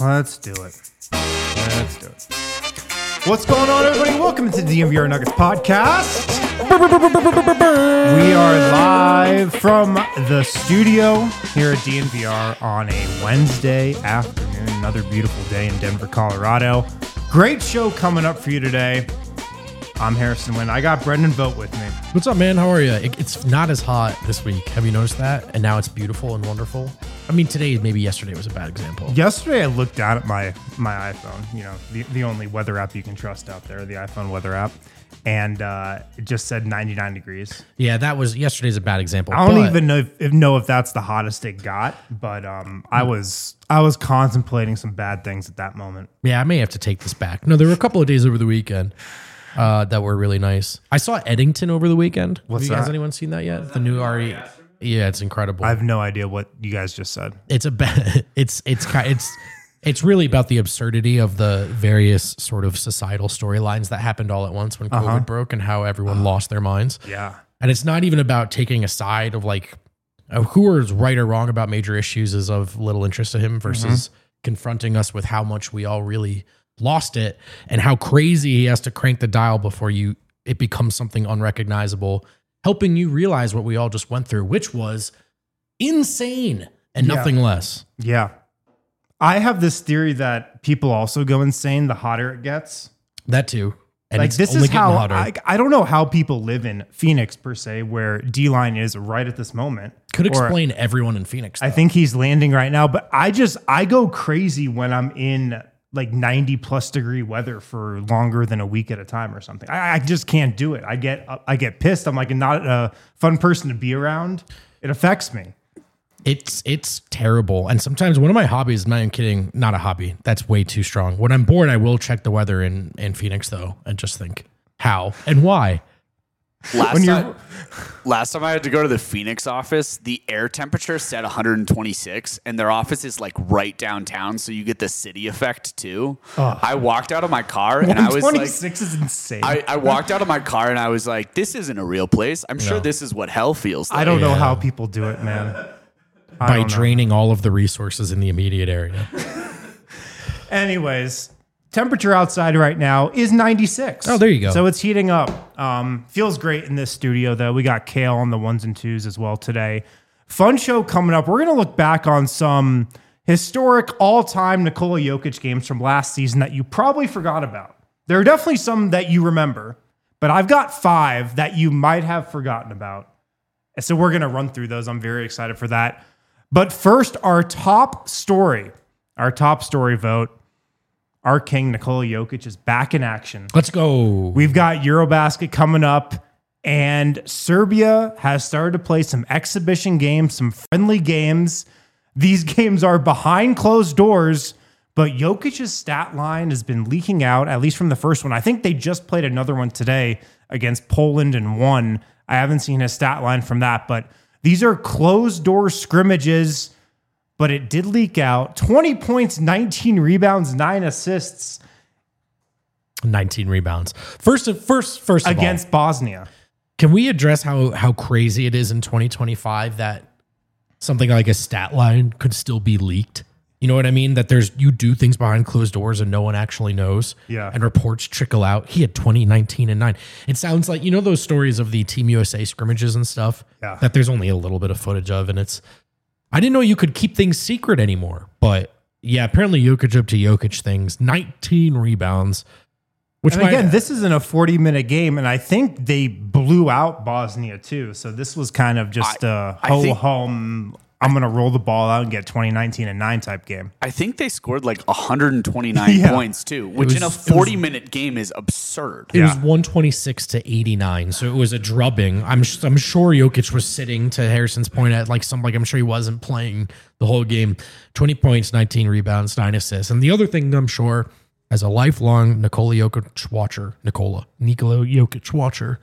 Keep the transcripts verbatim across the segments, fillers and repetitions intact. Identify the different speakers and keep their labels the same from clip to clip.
Speaker 1: Let's do it. Let's do it. What's going on, everybody? Welcome to the D N V R Nuggets podcast. We are live from the studio here at D N V R on a Wednesday afternoon. Another beautiful day in Denver, Colorado. Great show coming up for you today. I'm Harrison Wynn. I got Brendan Vogt with me.
Speaker 2: What's up, man? How are you? It, it's not as hot this week. Have you noticed that? And now it's beautiful and wonderful. I mean, today, maybe yesterday was a bad example.
Speaker 1: Yesterday, I looked down at my my iPhone, you know, the, the only weather app you can trust out there, the iPhone weather app, and uh, it just said ninety-nine degrees.
Speaker 2: Yeah, that was yesterday's a bad example.
Speaker 1: I don't
Speaker 2: but,
Speaker 1: even know if, if know if that's the hottest it got, but um, I was I was contemplating some bad things at that moment.
Speaker 2: Yeah, I may have to take this back. No, there were a couple of days over the weekend uh, that were really nice. I saw Eddington over the weekend.
Speaker 1: What's
Speaker 2: have you,
Speaker 1: that?
Speaker 2: Has anyone seen that yet? The new R E. Yeah, it's incredible.
Speaker 1: I have no idea what you guys just said.
Speaker 2: It's a ba- it's it's ki- it's it's really about the absurdity of the various sort of societal storylines that happened all at once when COVID
Speaker 1: Uh-huh.
Speaker 2: broke and how everyone lost their minds.
Speaker 1: Yeah.
Speaker 2: And it's not even about taking a side of like uh, who is right or wrong about major issues is of little interest to him versus confronting us with how much we all really lost it and how crazy he has to crank the dial before you it becomes something unrecognizable, helping you realize what we all just went through, which was insane and
Speaker 1: Yeah.
Speaker 2: nothing less.
Speaker 1: Yeah. I have this theory that people also go insane the hotter it gets.
Speaker 2: That too. And
Speaker 1: Like
Speaker 2: it's
Speaker 1: this
Speaker 2: only
Speaker 1: is how
Speaker 2: getting hotter.
Speaker 1: I, I don't know how people live in Phoenix per se, where D-Line is right at this moment.
Speaker 2: Could
Speaker 1: Or
Speaker 2: explain everyone in Phoenix.
Speaker 1: I
Speaker 2: though.
Speaker 1: think he's landing right now, but I just I go crazy when I'm in like ninety plus degree weather for longer than a week at a time or something. I, I just can't do it. I get I get pissed. I'm like not a fun person to be around. It affects me.
Speaker 2: It's it's terrible. And sometimes one of my hobbies, I'm not even kidding, not a hobby. That's way too strong. When I'm bored, I will check the weather in, in Phoenix though and just think how and why.
Speaker 3: Last
Speaker 1: When you're-
Speaker 3: time, last time I had to go to the Phoenix office, the air temperature said one hundred twenty-six, and their office is like right downtown, so you get the city effect too. I walked out of my car and I was like,
Speaker 1: twenty-six is insane.
Speaker 3: I, I walked out of my car and I was like, this isn't a real place. I'm sure
Speaker 2: No.
Speaker 3: this is what hell feels like.
Speaker 1: I don't know
Speaker 2: Yeah.
Speaker 1: how people do it, man. I
Speaker 2: By
Speaker 1: don't know.
Speaker 2: draining all of the resources in the immediate area.
Speaker 1: Anyways, temperature outside right now is ninety-six.
Speaker 2: Oh, there you go.
Speaker 1: So it's heating up. Um, feels great in this studio, though. We got Kale on the ones and twos as well today. Fun show coming up. We're going to look back on some historic all-time Nikola Jokic games from last season that you probably forgot about. There are definitely some that you remember, but I've got five that you might have forgotten about. And so we're going to run through those. I'm very excited for that. But first, our top story, our top story vote. Our king, Nikola Jokic, is back in action.
Speaker 2: Let's go.
Speaker 1: We've got Eurobasket coming up, and Serbia has started to play some exhibition games, some friendly games. These games are behind closed doors, but Jokic's stat line has been leaking out, at least from the first one. I think they just played another one today against Poland and won. I haven't seen his stat line from that, but these are closed door scrimmages. But it did leak out. twenty points, nineteen rebounds, nine assists
Speaker 2: nineteen rebounds. First of first first of
Speaker 1: against
Speaker 2: all,
Speaker 1: Bosnia.
Speaker 2: can we address how how crazy it is in twenty twenty-five that something like a stat line could still be leaked? You know what I mean? That there's you do things behind closed doors and no one actually knows.
Speaker 1: Yeah.
Speaker 2: And reports trickle out. He had twenty, nineteen, and nine. It sounds like, you know those stories of the Team U S A scrimmages and stuff?
Speaker 1: Yeah.
Speaker 2: That there's only a little bit of footage of, and it's I didn't know you could keep things secret anymore. But yeah, apparently Jokic up to Jokic things. nineteen rebounds. Which
Speaker 1: And
Speaker 2: might-
Speaker 1: again, this isn't a forty-minute game, and I think they blew out Bosnia too. So this was kind of just
Speaker 3: I-
Speaker 1: a
Speaker 3: I
Speaker 1: ho
Speaker 3: think-
Speaker 1: hum. I'm going to roll the ball out and get twenty, nineteen, and nine type game.
Speaker 3: I think they scored like one hundred twenty-nine
Speaker 1: Yeah.
Speaker 3: points too, which
Speaker 2: was-
Speaker 3: in a
Speaker 2: it was-
Speaker 3: forty-minute game is absurd.
Speaker 2: It
Speaker 1: Yeah.
Speaker 2: was one twenty-six to eighty-nine, so it was a drubbing. I'm I'm sure Jokic was sitting, to Harrison's point, at like some like I'm sure he wasn't playing the whole game. twenty points, nineteen rebounds, nine assists. And the other thing I'm sure, as a lifelong Nikola Jokic watcher, Nikola Nikola Jokic watcher,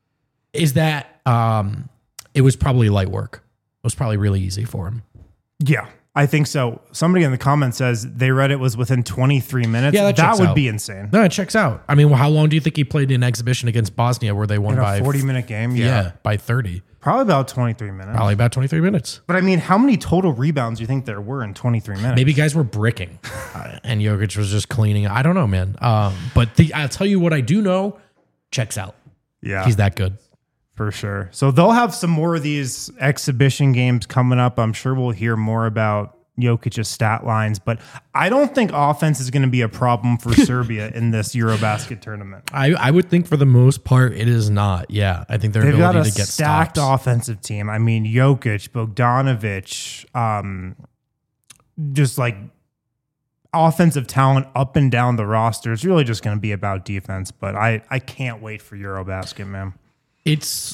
Speaker 2: is that um, it was probably light work. It was probably really easy for him.
Speaker 1: Yeah. I think so. Somebody in the comments says they read it was within twenty-three minutes.
Speaker 2: Yeah, that
Speaker 1: that
Speaker 2: checks
Speaker 1: would
Speaker 2: out.
Speaker 1: be insane.
Speaker 2: No, it checks out. I mean, well, how long do you think he played in exhibition against Bosnia where they won
Speaker 1: In
Speaker 2: by
Speaker 1: a forty-minute game?
Speaker 2: Yeah.
Speaker 1: Yeah.
Speaker 2: by thirty.
Speaker 1: Probably about twenty-three minutes.
Speaker 2: Probably about twenty-three minutes.
Speaker 1: But I mean, how many total rebounds do you think there were in twenty-three minutes?
Speaker 2: Maybe guys were bricking uh, and Jokic was just cleaning. I don't know, man. Um, but the, I'll tell you what I do know, checks out.
Speaker 1: Yeah.
Speaker 2: He's that good.
Speaker 1: For sure. So they'll have some more of these exhibition games coming up. I'm sure we'll hear more about Jokic's stat lines, but I don't think offense is going to be a problem for Serbia in this Eurobasket tournament.
Speaker 2: I, I would think for the most part it is not. Yeah, I think their
Speaker 1: They've got
Speaker 2: ability
Speaker 1: a
Speaker 2: to get
Speaker 1: stacked
Speaker 2: stops.
Speaker 1: offensive team. I mean, Jokic, Bogdanovic, um, just like offensive talent up and down the roster. It's really just going to be about defense, but I, I can't wait for Eurobasket, man.
Speaker 2: It's,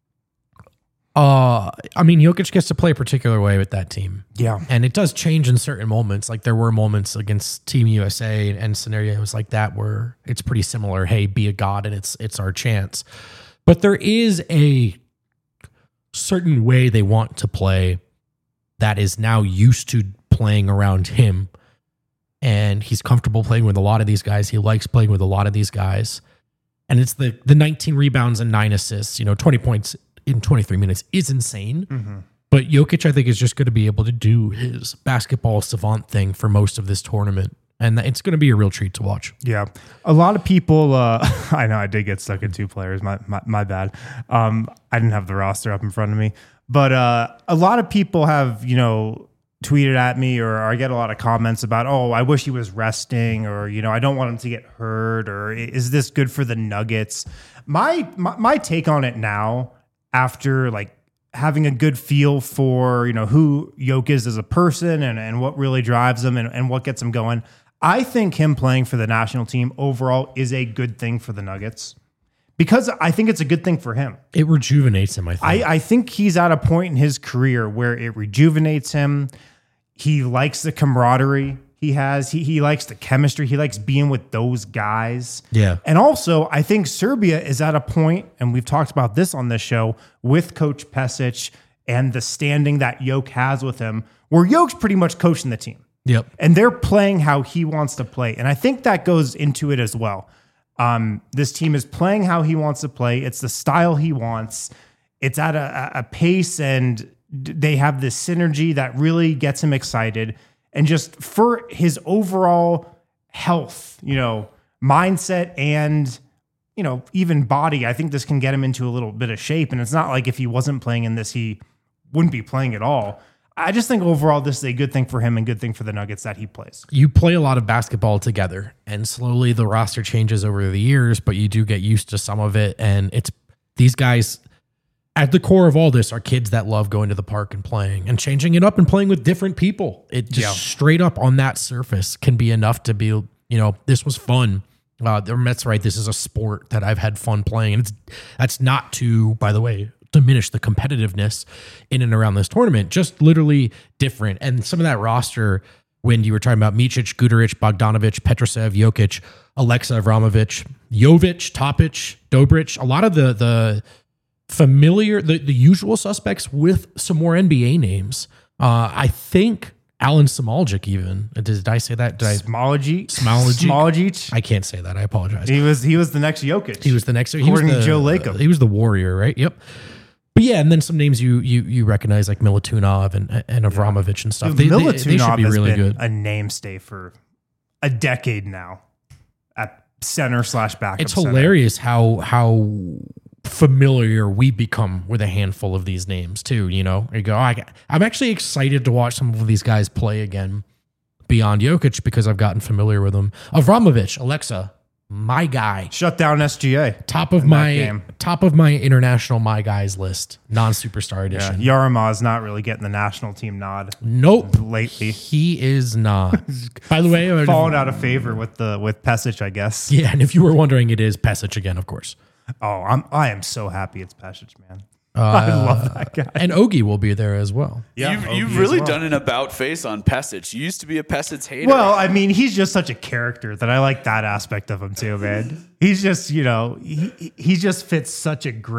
Speaker 2: uh, I mean, Jokic gets to play a particular way with that team.
Speaker 1: Yeah.
Speaker 2: And it does change in certain moments. Like there were moments against Team U S A and scenarios like that where it's pretty similar. Hey, be a god and it's it's our chance. But there is a certain way they want to play that is now used to playing around him. And he's comfortable playing with a lot of these guys. He likes playing with a lot of these guys. And it's the the nineteen rebounds and nine assists, you know, twenty points in twenty-three minutes is insane. Mm-hmm. But Jokic, I think, is just going to be able to do his basketball savant thing for most of this tournament. And it's going to be a real treat to watch.
Speaker 1: Yeah. A lot of people, uh, I know I did get stuck at two players. My my, my bad. Um, I didn't have the roster up in front of me. But uh, a lot of people have, you know, tweeted at me or I get a lot of comments about, oh, I wish he was resting or, you know, I don't want him to get hurt or is this good for the Nuggets? My my, my take on it now, after like having a good feel for, you know, who Jokic is as a person and, and what really drives him and, and what gets him going, I think him playing for the national team overall is a good thing for the Nuggets because I think it's a good thing for him.
Speaker 2: It rejuvenates him, I think.
Speaker 1: I, I think he's at a point in his career where it rejuvenates him. He likes the camaraderie he has. He, he likes the chemistry. He likes being with those guys.
Speaker 2: Yeah.
Speaker 1: And also, I think Serbia is at a point, and we've talked about this on this show, with Coach Pesic and the standing that Jokic has with him, where Jokic's pretty much coaching the team.
Speaker 2: Yep.
Speaker 1: And they're playing how he wants to play. And I think that goes into it as well. Um, this team is playing how he wants to play. It's the style he wants. It's at a, a pace, and they have this synergy that really gets him excited. And just for his overall health, you know, mindset and, you know, even body, I think this can get him into a little bit of shape. And it's not like if he wasn't playing in this, he wouldn't be playing at all. I just think overall this is a good thing for him and good thing for the Nuggets that he plays.
Speaker 2: You play a lot of basketball together, and slowly the roster changes over the years, but you do get used to some of it. And it's these guys at the core of all this are kids that love going to the park and playing and changing it up and playing with different people. It just
Speaker 1: Yeah.
Speaker 2: straight up on that surface can be enough to be, you know, this was fun. Uh, that's right. This is a sport that I've had fun playing. And it's that's not to, by the way, diminish the competitiveness in and around this tournament, just literally different. And some of that roster, when you were talking about Micic, Guduric, Bogdanovic, Petrosev, Jokic, Alexa Avramovic, Jovic, Topic, Dobric, a lot of the the familiar, the, the usual suspects with some more N B A names. Uh, I think Alan Smoljic even. Did, did I say that? Did I?
Speaker 1: Smology,
Speaker 2: Smology?
Speaker 1: Smology.
Speaker 2: I can't say that. I apologize.
Speaker 1: He was he was the next Jokic.
Speaker 2: He was the next. He was
Speaker 1: According
Speaker 2: the,
Speaker 1: to Joe Lacob.
Speaker 2: uh, he was the warrior, right? Yep. But yeah, and then some names you you you recognize like Milutinov and and Avramovic and stuff.
Speaker 1: Dude,
Speaker 2: they, they,
Speaker 1: Milutinov
Speaker 2: they should be
Speaker 1: has
Speaker 2: really
Speaker 1: been
Speaker 2: good.
Speaker 1: a namestay for a decade now at center slash backup.
Speaker 2: It's
Speaker 1: center.
Speaker 2: hilarious how how familiar we become with a handful of these names too. You know, you go, oh, I, I'm actually excited to watch some of these guys play again beyond Jokic because I've gotten familiar with them. Avramovic, Alexa, my guy,
Speaker 1: Shut down S G A.
Speaker 2: top of
Speaker 1: in that
Speaker 2: my
Speaker 1: game.
Speaker 2: top of my international my guys list, non-superstar
Speaker 1: Yeah,
Speaker 2: edition.
Speaker 1: Yaramaz not really getting the national team nod
Speaker 2: Nope.
Speaker 1: lately.
Speaker 2: He is not. By the way, uh,
Speaker 1: Fallen out of favor with the with Pesic, I guess.
Speaker 2: yeah, and if you were wondering, it is Pesic again, of course.
Speaker 1: Oh, I'm I am so happy it's Pesic, man.
Speaker 2: Uh,
Speaker 1: I love that guy.
Speaker 2: And Ogie will be there as well.
Speaker 1: Yeah,
Speaker 3: you've
Speaker 1: Ogie
Speaker 3: you've
Speaker 1: as
Speaker 3: really
Speaker 1: well.
Speaker 3: done an about face on Pesic. You used to be a Pesic hater.
Speaker 1: Well, I mean, he's just such a character that I like that aspect of him too, man. He's just, you know, he he just fits such a great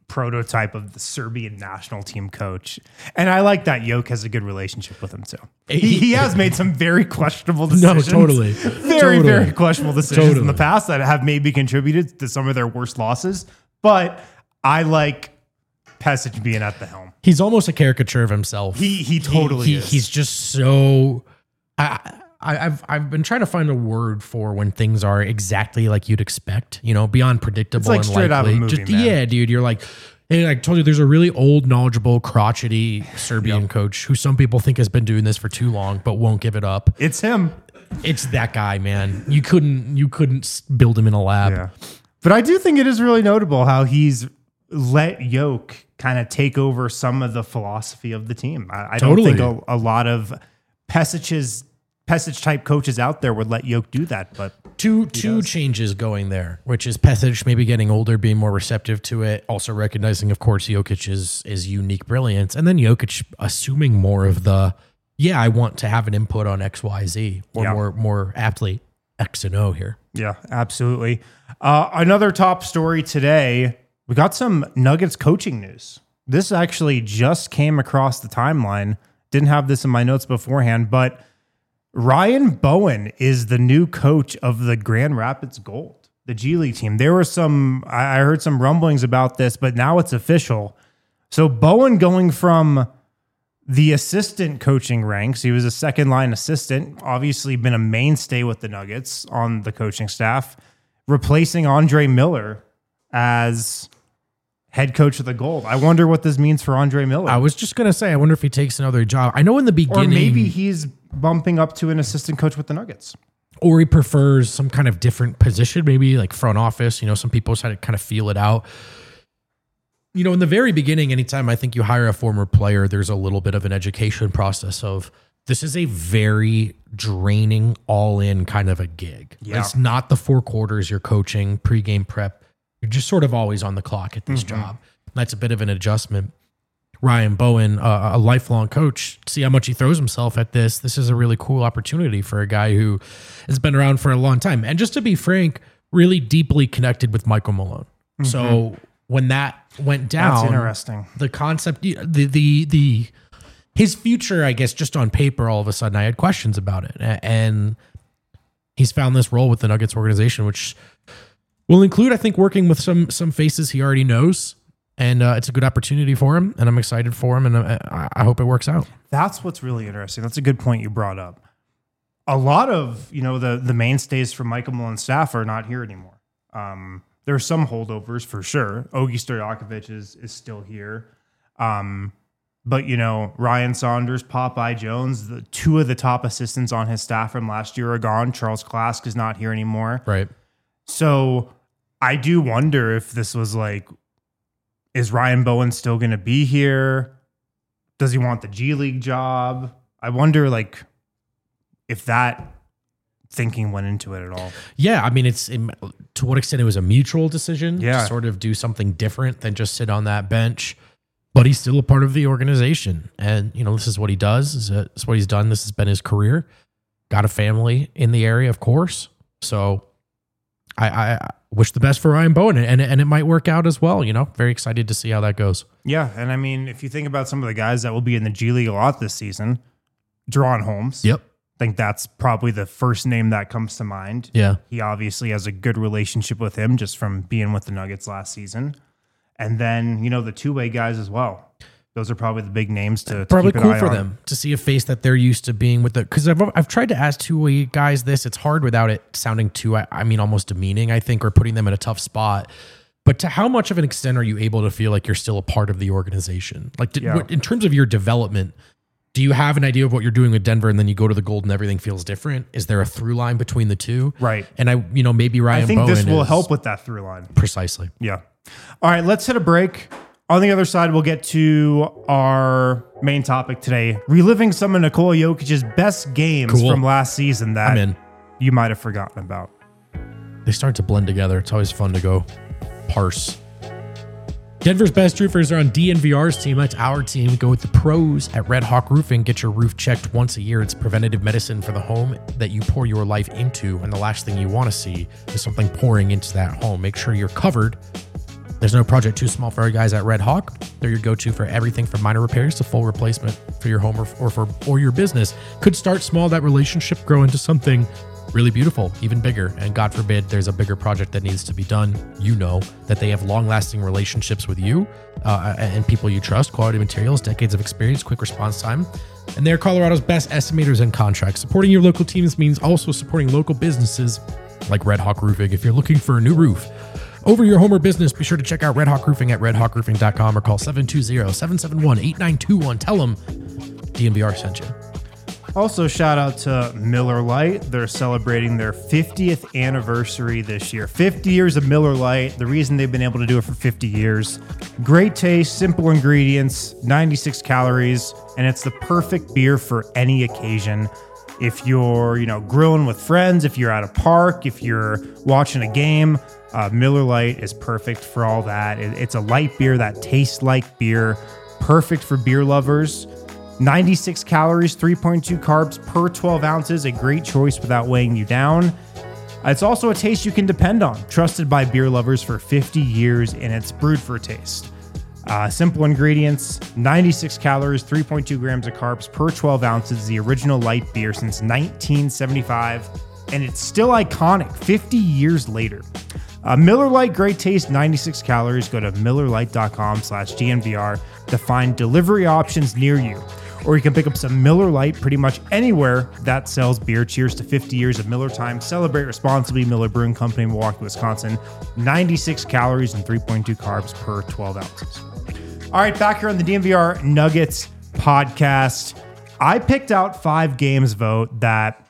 Speaker 1: prototype of the Serbian national team coach. And I like that Jokic has a good relationship with him too. He, he has made some very questionable decisions.
Speaker 2: No, totally.
Speaker 1: Very,
Speaker 2: totally.
Speaker 1: very questionable decisions
Speaker 2: Totally.
Speaker 1: in the past that have maybe contributed to some of their worst losses. But I like Pesic being at the helm.
Speaker 2: He's almost a caricature of himself.
Speaker 1: He he totally
Speaker 2: he, he,
Speaker 1: is.
Speaker 2: He's just so. I, I, I've I've been trying to find a word for when things are exactly like you'd expect. You know, beyond predictable.
Speaker 1: It's like
Speaker 2: and
Speaker 1: straight out of a
Speaker 2: likely.
Speaker 1: movie,
Speaker 2: Just,
Speaker 1: man.
Speaker 2: Yeah, dude. You're like, and I told you, there's a really old, knowledgeable, crotchety Serbian
Speaker 1: Yep.
Speaker 2: coach who some people think has been doing this for too long, but won't give it up.
Speaker 1: It's him.
Speaker 2: It's that guy, man. You couldn't you couldn't s- build him in a lab.
Speaker 1: Yeah. But I do think it is really notable how he's let Jokic kind of take over some of the philosophy of the team. I, I
Speaker 2: Totally.
Speaker 1: don't think a, a lot of Pesic's Pesic type coaches out there would let Jokic do that, but
Speaker 2: Two two changes going there, which is Pesic maybe getting older, being more receptive to it, also recognizing, of course, Jokic's is unique brilliance, and then Jokic assuming more of the, yeah, I want to have an input on X, Y, Z, or
Speaker 1: Yeah.
Speaker 2: more more aptly X and O here.
Speaker 1: yeah, absolutely. Uh, another top story today, we got some Nuggets coaching news. This actually just came across the timeline. Didn't have this in my notes beforehand, but Ryan Bowen is the new coach of the Grand Rapids Gold, the G League team. There were some, I I heard some rumblings about this, but now it's official. So Bowen going from the assistant coaching ranks, he was a second line assistant, obviously been a mainstay with the Nuggets on the coaching staff, replacing Andre Miller as head coach of the Gold. I wonder what this means for Andre Miller.
Speaker 2: I was just gonna say, I wonder if he takes another job. I know in the
Speaker 1: or
Speaker 2: beginning,
Speaker 1: maybe he's bumping up to an assistant coach with the Nuggets.
Speaker 2: or he prefers some kind of different position, maybe like front office. You know, some people had to kind of feel it out. You know, in the very beginning, anytime I think you hire a former player, there's a little bit of an education process of this is a very draining, all in kind of a gig.
Speaker 1: Yeah.
Speaker 2: It's not the four quarters you're coaching, pregame prep. You're just sort of always on the clock at this job. That's a bit of an adjustment. Ryan Bowen, uh, a lifelong coach, see how much he throws himself at this. This is a really cool opportunity for a guy who has been around for a long time. And just to be frank, really deeply connected with Michael Malone. So when that went down,
Speaker 1: That's interesting.
Speaker 2: the concept, the, the, the, his future, I guess, just on paper, all of a sudden I had questions about it. A- And he's found this role with the Nuggets organization, which will include, I think, working with some, some faces he already knows. And uh, it's a good opportunity for him, and I'm excited for him, and I, I hope it works out.
Speaker 1: That's what's really interesting. That's a good point you brought up. A lot of, you know, the the mainstays from Michael Malone's staff are not here anymore. Um, there are some holdovers for sure. Ogi Stojakovic is is still here. Um, but, you know, Ryan Saunders, Popeye Jones, the two of the top assistants on his staff from last year are gone. Charles Klask is not here anymore.
Speaker 2: Right.
Speaker 1: So I do wonder if this was like, is Ryan Bowen still going to be here? Does he want the G League job? I wonder, like, if that thinking went into it at all.
Speaker 2: Yeah, I mean, it's it, to what extent it was a mutual decision
Speaker 1: Yeah.
Speaker 2: to sort of do something different than just sit on that bench. But he's still a part of the organization, and you know this is what he does. This is what he's done. This has been his career. Got a family in the area, of course. So I, I wish the best for Ryan Bowen, and and it might work out as well. You know, very excited to see how that goes.
Speaker 1: Yeah, and I mean, if you think about some of the guys that will be in the G League a lot this season, De'Ron Holmes.
Speaker 2: Yep.
Speaker 1: I think that's probably the first name that comes to mind.
Speaker 2: Yeah.
Speaker 1: He obviously has a good relationship with him just from being with the Nuggets last season. And then, you know, the two-way guys as well. Those are probably the big names to, to
Speaker 2: Probably
Speaker 1: keep an
Speaker 2: cool
Speaker 1: eye
Speaker 2: for
Speaker 1: on.
Speaker 2: them to see a face that they're used to being with the, because I've, I've tried to ask two-way guys this. It's hard without it sounding too, I, I mean, almost demeaning, I think, or putting them in a tough spot. But to how much of an extent are you able to feel like you're still a part of the organization? Like did,
Speaker 1: Yeah.
Speaker 2: what, in terms of your development, do you have an idea of what you're doing with Denver and then you go to the Gold and everything feels different? Is there a through line between the two?
Speaker 1: Right.
Speaker 2: And I, you know, maybe Ryan
Speaker 1: I think
Speaker 2: Bowen
Speaker 1: this will
Speaker 2: is-
Speaker 1: help with that through line.
Speaker 2: Precisely.
Speaker 1: Yeah. All right, let's hit a break. On the other side, we'll get to our main topic today, reliving some of Nikola Jokic's best games
Speaker 2: Cool.
Speaker 1: from last season that
Speaker 2: I'm in.
Speaker 1: you might have forgotten about.
Speaker 2: They start to blend together. It's always fun to go parse. Denver's best roofers are on D N V R's team. That's our team. Go with the pros at Red Hawk Roofing. Get your roof checked once a year. It's preventative medicine for the home that you pour your life into. And the last thing you want to see is something pouring into that home. Make sure you're covered There's no project too small for our guys at Red Hawk. They're your go-to for everything from minor repairs to full replacement for your home or, or for or your business. Could start small, that relationship grow into something really beautiful, even bigger. And God forbid there's a bigger project that needs to be done. You know that they have long-lasting relationships with you uh, and people you trust, quality materials, decades of experience, quick response time. And they're Colorado's best estimators and contracts. Supporting your local teams means also supporting local businesses like Red Hawk Roofing. If you're looking for a new roof over your home or business, be sure to check out Red Hawk Roofing at red hawk roofing dot com or call seven two zero, seven seven one, eight nine two one. Tell them D N V R sent you.
Speaker 1: Also, shout out to Miller Lite. They're celebrating their fiftieth anniversary this year. fifty years of Miller Lite. The reason they've been able to do it for fifty years. Great taste, simple ingredients, ninety-six calories, and it's the perfect beer for any occasion. If you're, you know, grilling with friends, if you're at a park, if you're watching a game, uh, Miller Lite is perfect for all that. It, it's a light beer that tastes like beer. Perfect for beer lovers. ninety-six calories, three point two carbs per twelve ounces. A great choice without weighing you down. It's also a taste you can depend on. Trusted by beer lovers for fifty years, and it's brewed for taste. Uh, simple ingredients, ninety-six calories, three point two grams of carbs per twelve ounces. The original light beer since nineteen seventy-five, and it's still iconic fifty years later. Uh, Miller Lite, great taste, ninety-six calories. Go to miller lite dot com slash D N V R to find delivery options near you. Or you can pick up some Miller Lite pretty much anywhere that sells beer. Cheers to fifty years of Miller time. Celebrate responsibly. Miller Brewing Company, Milwaukee, Wisconsin. ninety-six calories and three point two carbs per twelve ounces. All right, back here on the D N V R Nuggets podcast. I picked out five games, vote, that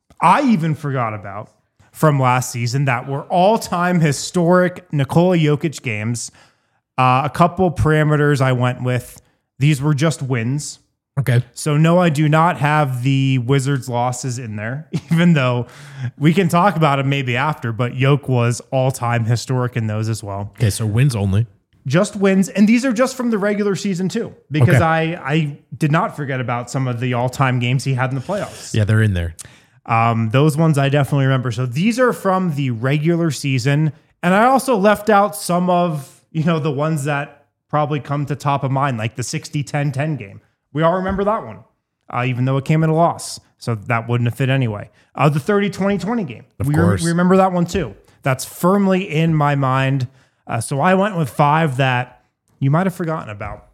Speaker 1: I even forgot about from last season that were all-time historic Nikola Jokic games. Uh, a couple parameters I went with. These were just wins.
Speaker 2: Okay.
Speaker 1: So no, I do not have the Wizards losses in there, even though we can talk about them maybe after, but Jokic was all-time historic in those as well.
Speaker 2: Okay, so wins only.
Speaker 1: Just wins. And these are just from the regular season too, because
Speaker 2: Okay.
Speaker 1: I, I did not forget about some of the all-time games he had in the playoffs.
Speaker 2: Yeah, they're in there.
Speaker 1: Um, those ones I definitely remember. So these are from the regular season. And I also left out some of, you know, the ones that probably come to top of mind, like the sixty ten ten game. We all remember that one, uh, even though it came in a loss. So that wouldn't have fit anyway. Uh, the thirty twenty twenty game.
Speaker 2: Of
Speaker 1: we,
Speaker 2: course.
Speaker 1: Re- we remember that one too. That's firmly in my mind. Uh, so I went with five that you might have forgotten about.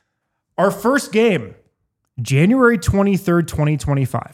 Speaker 1: Our first game, January twenty-third, twenty twenty-five.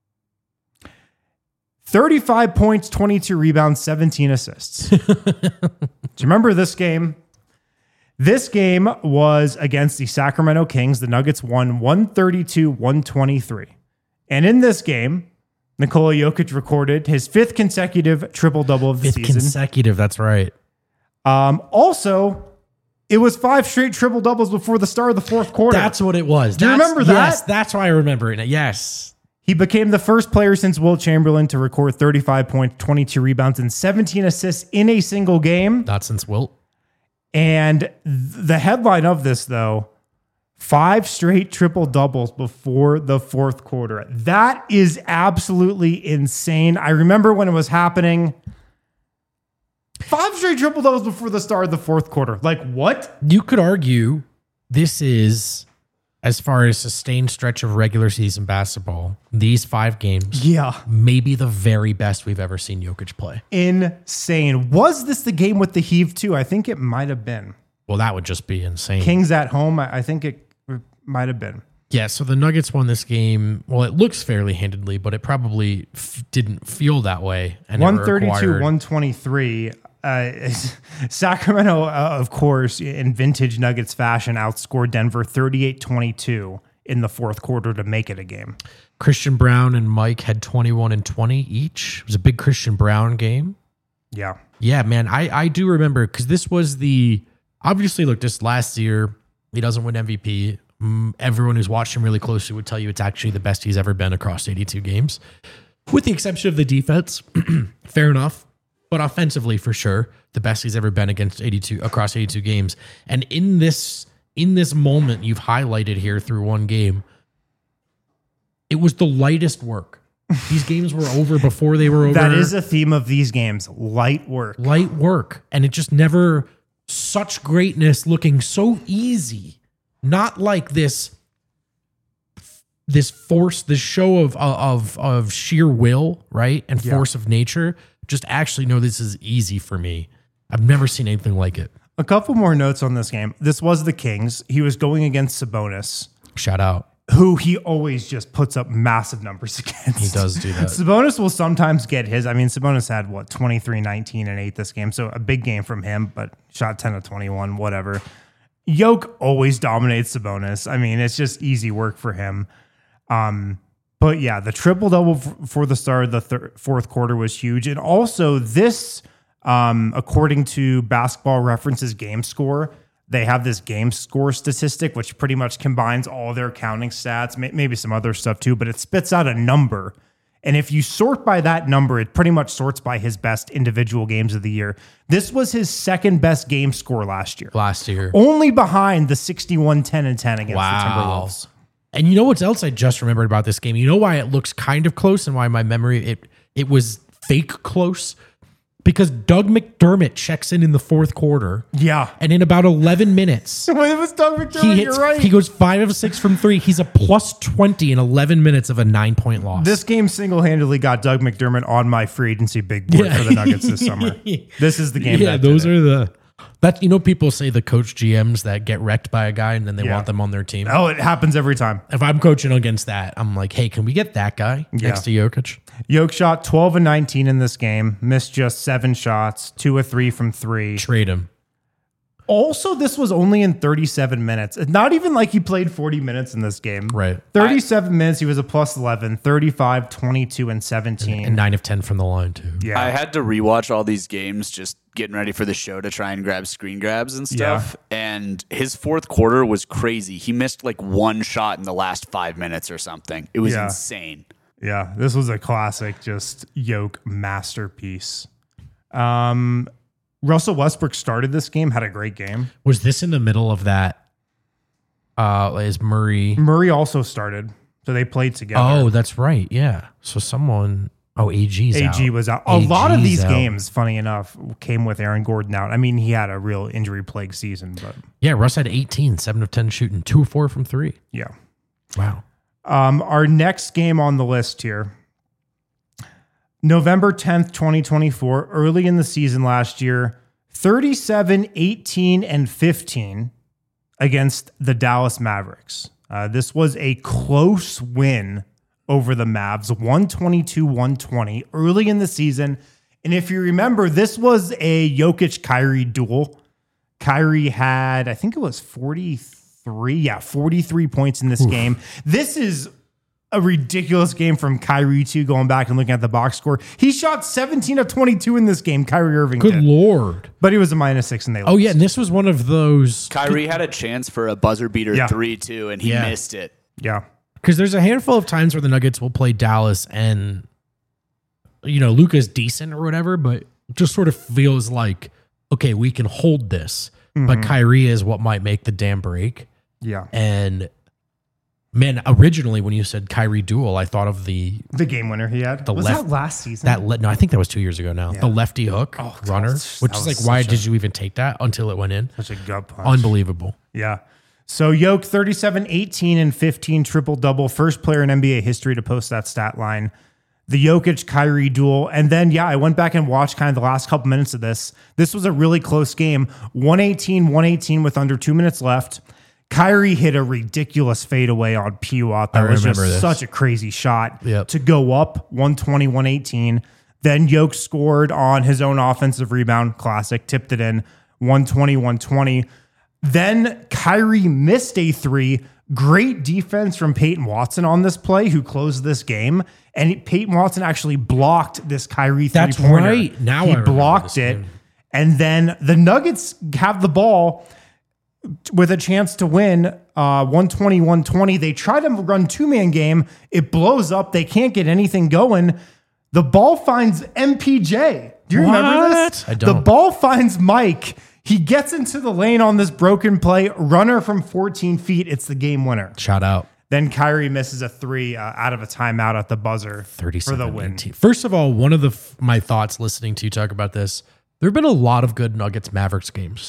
Speaker 1: thirty-five points, twenty-two rebounds, seventeen assists. Do you remember this game? This game was against the Sacramento Kings. The Nuggets won one thirty-two to one twenty-three. And in this game, Nikola Jokic recorded his fifth consecutive triple-double of the
Speaker 2: Fifth
Speaker 1: season.
Speaker 2: consecutive, that's right.
Speaker 1: Um, also, it was five straight triple-doubles before the start of the fourth quarter.
Speaker 2: That's what it was.
Speaker 1: Do you
Speaker 2: That's-
Speaker 1: remember that?
Speaker 2: Yes, that's why I remember it. Yes.
Speaker 1: He became the first player since Wilt Chamberlain to record thirty-five points, twenty-two rebounds, and seventeen assists in a single game.
Speaker 2: Not since Wilt.
Speaker 1: And th- the headline of this, though, five straight triple doubles before the fourth quarter. That is absolutely insane. I remember when it was happening. Five straight triple doubles before the start of the fourth quarter. Like, what?
Speaker 2: You could argue this is, as far as sustained stretch of regular season basketball, these five games,
Speaker 1: Yeah.
Speaker 2: maybe the very best we've ever seen Jokic play.
Speaker 1: Insane. Was this the game with the heave, too? I think it might have been.
Speaker 2: Well, that would just be insane.
Speaker 1: Kings at home, I I think it might have been.
Speaker 2: Yeah, so the Nuggets won this game. Well, it looks fairly handedly, but it probably f- didn't feel that way. And it
Speaker 1: one thirty-two,
Speaker 2: required-
Speaker 1: one twenty-three. Uh, Sacramento, uh, of course, in vintage Nuggets fashion, outscored Denver thirty-eight twenty-two in the fourth quarter to make it a game.
Speaker 2: Christian Brown and Mike had twenty-one and twenty each. It was a big Christian Brown game.
Speaker 1: Yeah.
Speaker 2: Yeah, man, I, I do remember because this was the, obviously, look, this last year, he doesn't win M V P. Mm, everyone who's watched him really closely would tell you it's actually the best he's ever been across eighty-two games, with the exception of the defense. Fair enough. But offensively, for sure, the best he's ever been against eighty-two across eighty-two games. And in this in this moment you've highlighted here through one game, it was the lightest work. These games were over before they were over.
Speaker 1: That is a theme of these games, light work.
Speaker 2: Light work. And it just never such greatness looking so easy, not like this this force, this show of of of sheer will, right? And
Speaker 1: Yeah.
Speaker 2: force of nature. Just actually know this is easy for me. I've never seen anything like it.
Speaker 1: A couple more notes on this game. This was the Kings. He was going against Sabonis,
Speaker 2: Shout out.
Speaker 1: who he always just puts up massive numbers against.
Speaker 2: He does do that.
Speaker 1: Sabonis will sometimes get his. I mean, Sabonis had what, twenty-three, nineteen, and eight this game. So a big game from him, but shot ten of twenty-one, whatever. Yoke always dominates Sabonis. I mean, it's just easy work for him. Um, but yeah, the triple double f- for the start of the thir- fourth quarter was huge. And also this, um, according to Basketball Reference's game score, they have this game score statistic, which pretty much combines all their counting stats, may- maybe some other stuff too, but it spits out a number. And if you sort by that number, it pretty much sorts by his best individual games of the year. This was his second best game score last year,
Speaker 2: Last year.
Speaker 1: only behind the sixty-one, ten, and ten against
Speaker 2: Wow.
Speaker 1: the Timberwolves.
Speaker 2: And you know what else I just remembered about this game? You know why it looks kind of close and why my memory, it it was fake close? Because Doug McDermott checks in in the fourth quarter.
Speaker 1: Yeah.
Speaker 2: And in about eleven minutes,
Speaker 1: When it was Doug McDermott,
Speaker 2: he
Speaker 1: you're
Speaker 2: hits,
Speaker 1: right.
Speaker 2: he goes five of six from three. He's a plus twenty in eleven minutes of a nine point loss.
Speaker 1: This game single-handedly got Doug McDermott on my free agency big board
Speaker 2: Yeah.
Speaker 1: for the Nuggets this summer. This is the game.
Speaker 2: yeah,
Speaker 1: that
Speaker 2: those
Speaker 1: did it.
Speaker 2: are the, that, you know, people say the coach G Ms that get wrecked by a guy and then they
Speaker 1: Yeah.
Speaker 2: want them on their team.
Speaker 1: Oh, it happens every time.
Speaker 2: If I'm coaching against that, I'm like, hey, can we get that guy next to Jokic?
Speaker 1: Yoke shot twelve and nineteen in this game, missed just seven shots, two or three from three.
Speaker 2: Trade him.
Speaker 1: Also, this was only in thirty-seven minutes. It's not even like he played forty minutes in this game.
Speaker 2: Right.
Speaker 1: thirty-seven minutes, he was a plus eleven, thirty-five, twenty-two, and seventeen.
Speaker 2: And nine of ten from the line, too.
Speaker 1: yeah.
Speaker 3: I had to rewatch all these games just getting ready for the show to try and grab screen grabs and stuff. And his fourth quarter was crazy. He missed like one shot in the last five minutes or something. It was
Speaker 1: Yeah.
Speaker 3: insane.
Speaker 1: Yeah, this was a classic, just Yoke masterpiece. Um, Russell Westbrook started this game, had a great game.
Speaker 2: Was this in the middle of that? Uh, is Murray?
Speaker 1: Murray also started, so they played together.
Speaker 2: Oh, that's right. Yeah. So someone. Oh, A G's
Speaker 1: A G
Speaker 2: out.
Speaker 1: was out. A lot of
Speaker 2: A G's
Speaker 1: these
Speaker 2: out.
Speaker 1: games, funny enough, came with Aaron Gordon out. I mean, he had a real injury plagued season, but
Speaker 2: Yeah, Russ had eighteen, seven of ten shooting, two of four from three.
Speaker 1: yeah.
Speaker 2: Wow.
Speaker 1: Um, our next game on the list here, November tenth, twenty twenty-four, early in the season last year, thirty-seven, eighteen, and fifteen against the Dallas Mavericks. Uh, this was a close win over the Mavs, one twenty-two, one twenty, early in the season. And if you remember, this was a Jokic-Kyrie duel. Kyrie had, I think it was forty-three, yeah, forty-three points in this game. This is a ridiculous game from Kyrie too, going back and looking at the box score. He shot seventeen of twenty-two in this game, Kyrie Irving
Speaker 2: Good
Speaker 1: did.
Speaker 2: Lord.
Speaker 1: But he was a minus six and they
Speaker 2: Oh,
Speaker 1: lost.
Speaker 2: yeah. And this was one of those.
Speaker 3: Kyrie had a chance for a buzzer beater
Speaker 1: Yeah.
Speaker 3: three, too, and he
Speaker 2: Yeah.
Speaker 3: missed it.
Speaker 1: Yeah.
Speaker 2: Because there's a handful of times where the Nuggets will play Dallas and, you know, Luka's decent or whatever, but just sort of feels like, okay, we can hold this. But Kyrie is what might make the damn break.
Speaker 1: Yeah.
Speaker 2: And man, originally when you said Kyrie duel, I thought of the
Speaker 1: The game winner he had.
Speaker 2: The
Speaker 1: was
Speaker 2: left-
Speaker 1: that last season?
Speaker 2: that le- no, I think that was two years ago now.
Speaker 1: Yeah.
Speaker 2: The lefty hook
Speaker 1: Oh, God,
Speaker 2: runner,
Speaker 1: that
Speaker 2: which
Speaker 1: was
Speaker 2: is like, why
Speaker 1: such a-
Speaker 2: did you even take that until it went in?
Speaker 1: Such a gut punch.
Speaker 2: Unbelievable.
Speaker 1: Yeah. So Yoke, thirty-seven, eighteen, and fifteen triple double. First player in N B A history to post that stat line. The Jokic Kyrie duel. And then, yeah, I went back and watched kind of the last couple minutes of this. This was a really close game. one eighteen, one eighteen with under two minutes left. Kyrie hit a ridiculous fadeaway on P W A T. That
Speaker 2: I
Speaker 1: was just
Speaker 2: remember this.
Speaker 1: such a crazy shot
Speaker 2: Yep.
Speaker 1: to go up one twenty, one eighteen. Then Yoke scored on his own offensive rebound. Classic. Tipped it in one twenty, one twenty. Then Kyrie missed a three. Great defense from Peyton Watson on this play, who closed this game. And he- Peyton Watson actually blocked this Kyrie
Speaker 2: That's
Speaker 1: three-pointer.
Speaker 2: right. Now
Speaker 1: he
Speaker 2: I remember
Speaker 1: blocked
Speaker 2: this
Speaker 1: it.
Speaker 2: game.
Speaker 1: And then the Nuggets have the ball with a chance to win uh, one twenty, one twenty. They try to run two-man game. It blows up. They can't get anything going. The ball finds M P J. Do you remember this?
Speaker 2: What? I don't.
Speaker 1: The ball finds Mike. He gets into the lane on this broken play. Runner from fourteen feet. It's the game winner.
Speaker 2: Shout out.
Speaker 1: Then Kyrie misses a three uh, out of a timeout at the buzzer for
Speaker 2: thirty-seven
Speaker 1: the win.
Speaker 2: eighteen. First of all, one of the f- my thoughts listening to you talk about this, there have been a lot of good Nuggets Mavericks games.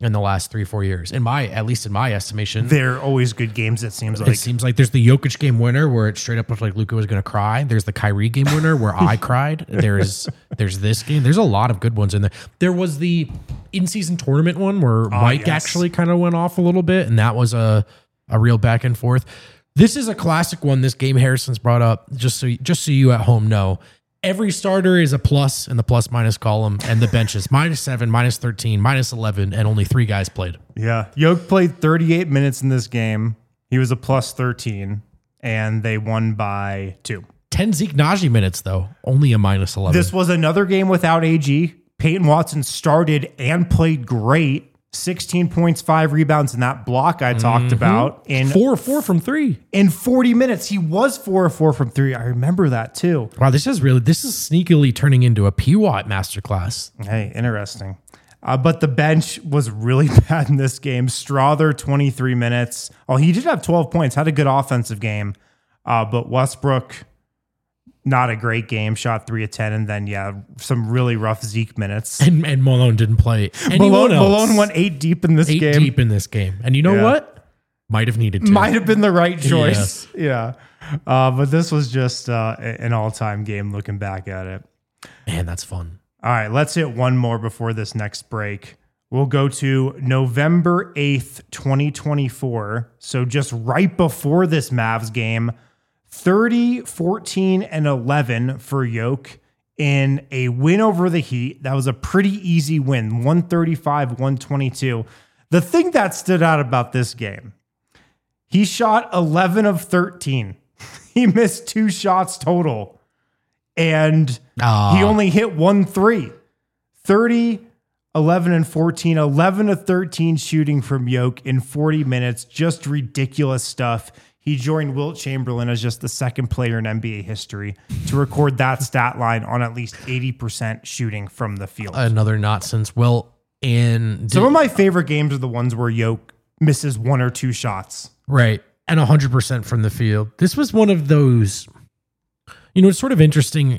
Speaker 2: in the last three, four years. In my, at least in my estimation,
Speaker 1: They're always good games, it seems like.
Speaker 2: it seems like there's the Jokic game winner where it straight up looked like Luka was going to cry. There's the Kyrie game winner where I cried. There's there's this game. There's a lot of good ones in there. There was the in-season tournament one where Mike
Speaker 1: yes.
Speaker 2: actually kind of went off a little bit, and that was a a real back and forth. This is a classic one. This game Harrison's brought up, just so just so you at home know. Every starter is a plus in the plus minus column, and the bench is minus seven, minus thirteen, minus eleven, and only three guys played.
Speaker 1: Yeah. Yoke played thirty-eight minutes in this game. He was a plus thirteen, and they won by two.
Speaker 2: ten Zeke Naji minutes, though, only a minus eleven.
Speaker 1: This was another game without A G. Peyton Watson started and played great. sixteen points, five rebounds in that block I talked
Speaker 2: Mm-hmm.
Speaker 1: about. In
Speaker 2: four four from three.
Speaker 1: in forty minutes, he was four of four from three. I remember that too.
Speaker 2: Wow, this is really, this is sneakily turning into a P W A T masterclass.
Speaker 1: Hey, interesting. Uh, but the bench was really bad in this game. Strother, twenty-three minutes. Oh, he did have twelve points, had a good offensive game. Uh, but Westbrook, not a great game, shot three of ten. And then, yeah, some really rough Zeke minutes.
Speaker 2: And, and Malone didn't play anyone
Speaker 1: Malone,
Speaker 2: else.
Speaker 1: Malone went eight deep in this
Speaker 2: Eight
Speaker 1: game.
Speaker 2: deep in this game. And you know
Speaker 1: Yeah.
Speaker 2: what? Might have needed to.
Speaker 1: Might have been the right choice. Yeah. Uh, but this was just uh, an all-time game looking back at it.
Speaker 2: Man, that's fun.
Speaker 1: All right, let's hit one more before this next break. We'll go to November eighth, twenty twenty-four. So just right before this Mavs game, thirty, fourteen, and eleven for Yoke in a win over the Heat. That was a pretty easy win, one thirty-five, one twenty-two. The thing that stood out about this game, he shot eleven of thirteen. He missed two shots total. And
Speaker 2: Ah.
Speaker 1: he only hit one three. thirty, eleven, and fourteen. eleven of thirteen shooting from Yoke in forty minutes. Just ridiculous stuff. He joined Wilt Chamberlain as just the second player in N B A history to record that stat line on at least eighty percent shooting from the field.
Speaker 2: Another not since Wilt. And
Speaker 1: Some of my favorite games are the ones where Yoke misses one or two shots.
Speaker 2: right. And one hundred percent from the field. This was one of those, you know, it's sort of interesting.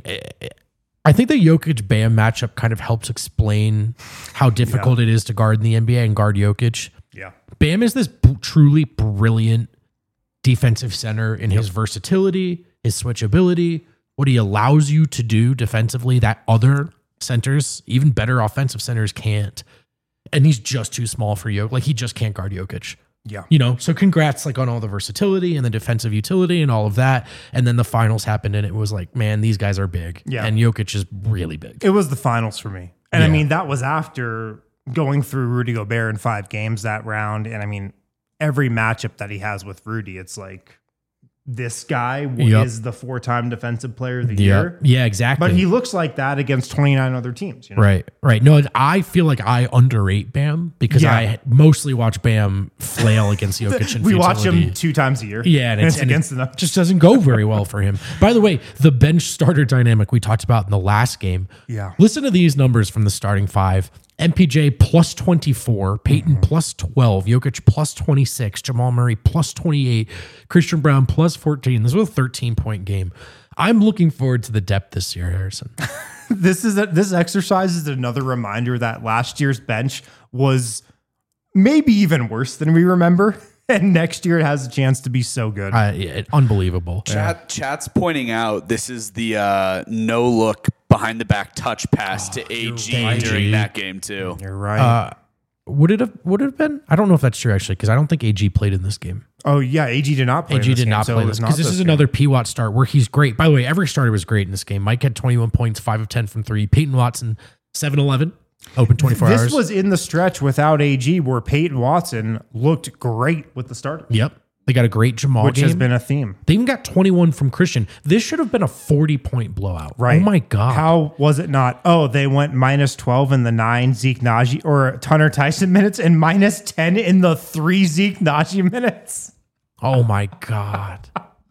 Speaker 2: I think the Jokic Bam matchup kind of helps explain how difficult it is to guard in the N B A and guard Jokic.
Speaker 1: Yeah.
Speaker 2: Bam is this b- truly brilliant defensive center in his versatility, his switchability, what he allows you to do defensively that other centers, even better offensive centers, can't. And he's just too small for Jokic. Like, he just can't guard Jokic.
Speaker 1: Yeah.
Speaker 2: You know, so congrats like on all the versatility and the defensive utility and all of that. And then the finals happened and it was like, man, these guys are big.
Speaker 1: Yeah.
Speaker 2: And Jokic is really big.
Speaker 1: It was the finals for me. And I
Speaker 2: Yeah.
Speaker 1: mean, that was after going through Rudy Gobert in five games that round. And I mean, every matchup that he has with Rudy, it's like, this guy
Speaker 2: Yep.
Speaker 1: is the four-time defensive player of the
Speaker 2: Yeah.
Speaker 1: year.
Speaker 2: Yeah, exactly.
Speaker 1: But he looks like that against twenty-nine other teams. You know?
Speaker 2: Right, right. No, I feel like I underrate Bam because
Speaker 1: Yeah.
Speaker 2: I mostly watch Bam flail against Jokic and
Speaker 1: We watch
Speaker 2: futility.
Speaker 1: him two times a year.
Speaker 2: Yeah, and,
Speaker 1: and
Speaker 2: it's,
Speaker 1: it's
Speaker 2: and
Speaker 1: against
Speaker 2: it
Speaker 1: them.
Speaker 2: just doesn't go very well for him. By the way, the bench starter dynamic we talked about in the last game.
Speaker 1: Yeah.
Speaker 2: Listen to these numbers from the starting five. M P J plus twenty-four, Peyton plus twelve, Jokic plus twenty-six, Jamal Murray plus twenty-eight, Christian Brown plus fourteen. This was a thirteen-point game. I'm looking forward to the depth this year, Harrison.
Speaker 1: This is a, this exercise is another reminder that last year's bench was maybe even worse than we remember. And next year it has a chance to be so good.
Speaker 2: Uh, yeah, unbelievable.
Speaker 3: Chat, Chat's pointing out this is the uh, no look behind the back touch pass to A G
Speaker 2: right.
Speaker 3: during that game too.
Speaker 1: You're right.
Speaker 2: Uh, would it have would it have been? I don't know if that's true actually, because I don't think A G played in this game.
Speaker 1: oh yeah, A G did not play.
Speaker 2: A G
Speaker 1: in this
Speaker 2: did
Speaker 1: game,
Speaker 2: not
Speaker 1: so
Speaker 2: play
Speaker 1: it
Speaker 2: this
Speaker 1: was
Speaker 2: because
Speaker 1: not
Speaker 2: this is
Speaker 1: game.
Speaker 2: another P Watt start where he's great. By the way, every starter was great in this game. Mike had twenty-one points, five of ten from three. Peyton Watson, seven eleven, open twenty-four
Speaker 1: This
Speaker 2: hours.
Speaker 1: was in the stretch without A G where Peyton Watson looked great with the starters,
Speaker 2: Yep. They got a great Jamal
Speaker 1: which
Speaker 2: game.
Speaker 1: has been a theme.
Speaker 2: They even got twenty-one from Christian. This should have been a forty-point blowout.
Speaker 1: Right.
Speaker 2: Oh my God.
Speaker 1: How was it not? Oh, they went minus twelve in the nine Zeke Naji or Tunner Tyson minutes and minus ten in the three Zeke Naji minutes.
Speaker 2: Oh my God.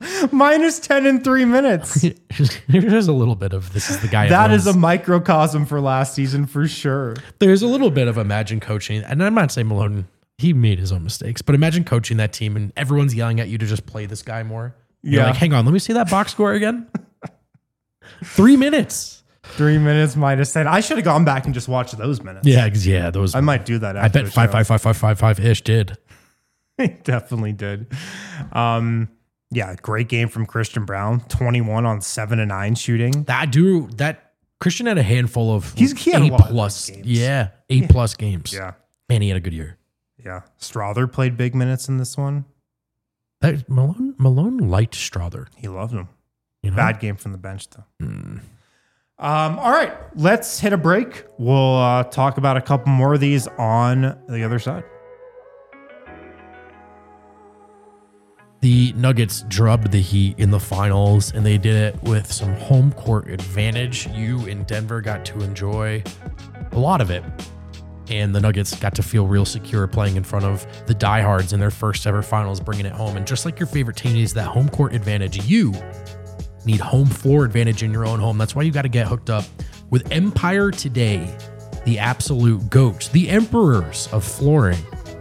Speaker 1: Minus ten in three minutes.
Speaker 2: There's a little bit of this is the guy.
Speaker 1: That is a
Speaker 2: everyone's-
Speaker 1: microcosm for last season for sure.
Speaker 2: There's a little bit of imagine coaching, and I'm not saying Malone, he made his own mistakes, but imagine coaching that team and everyone's yelling at you to just play this guy more. You're
Speaker 1: Yeah.
Speaker 2: like, hang on, let me see that box score again. Three minutes.
Speaker 1: Three minutes minus ten. I should have gone back and just watched those minutes.
Speaker 2: Yeah, yeah, those.
Speaker 1: I might do that.
Speaker 2: I bet five, five, five, five, five, five ish did.
Speaker 1: It definitely did. Um, yeah, great game from Christian Braun. twenty-one on seven and nine shooting.
Speaker 2: That dude, that Christian had a handful of
Speaker 1: He's he had
Speaker 2: A
Speaker 1: a lot
Speaker 2: plus,
Speaker 1: of games.
Speaker 2: yeah, eight plus games.
Speaker 1: Yeah,
Speaker 2: and he had a good year.
Speaker 1: yeah. Strother played big minutes in this one.
Speaker 2: That, Malone, Malone liked Strother.
Speaker 1: He loved him.
Speaker 2: You know?
Speaker 1: Bad game from the bench though.
Speaker 2: Mm.
Speaker 1: Um, all right, let's hit a break. We'll uh, talk about a couple more of these on the other side.
Speaker 2: The Nuggets drubbed the Heat in the finals, and they did it with some home court advantage. You in Denver got to enjoy a lot of it, and the Nuggets got to feel real secure playing in front of the diehards in their first ever finals, bringing it home. And just like your favorite team needs that home court advantage, you need home floor advantage in your own home. That's why you got to get hooked up with Empire Today, the absolute goats, the emperors of flooring.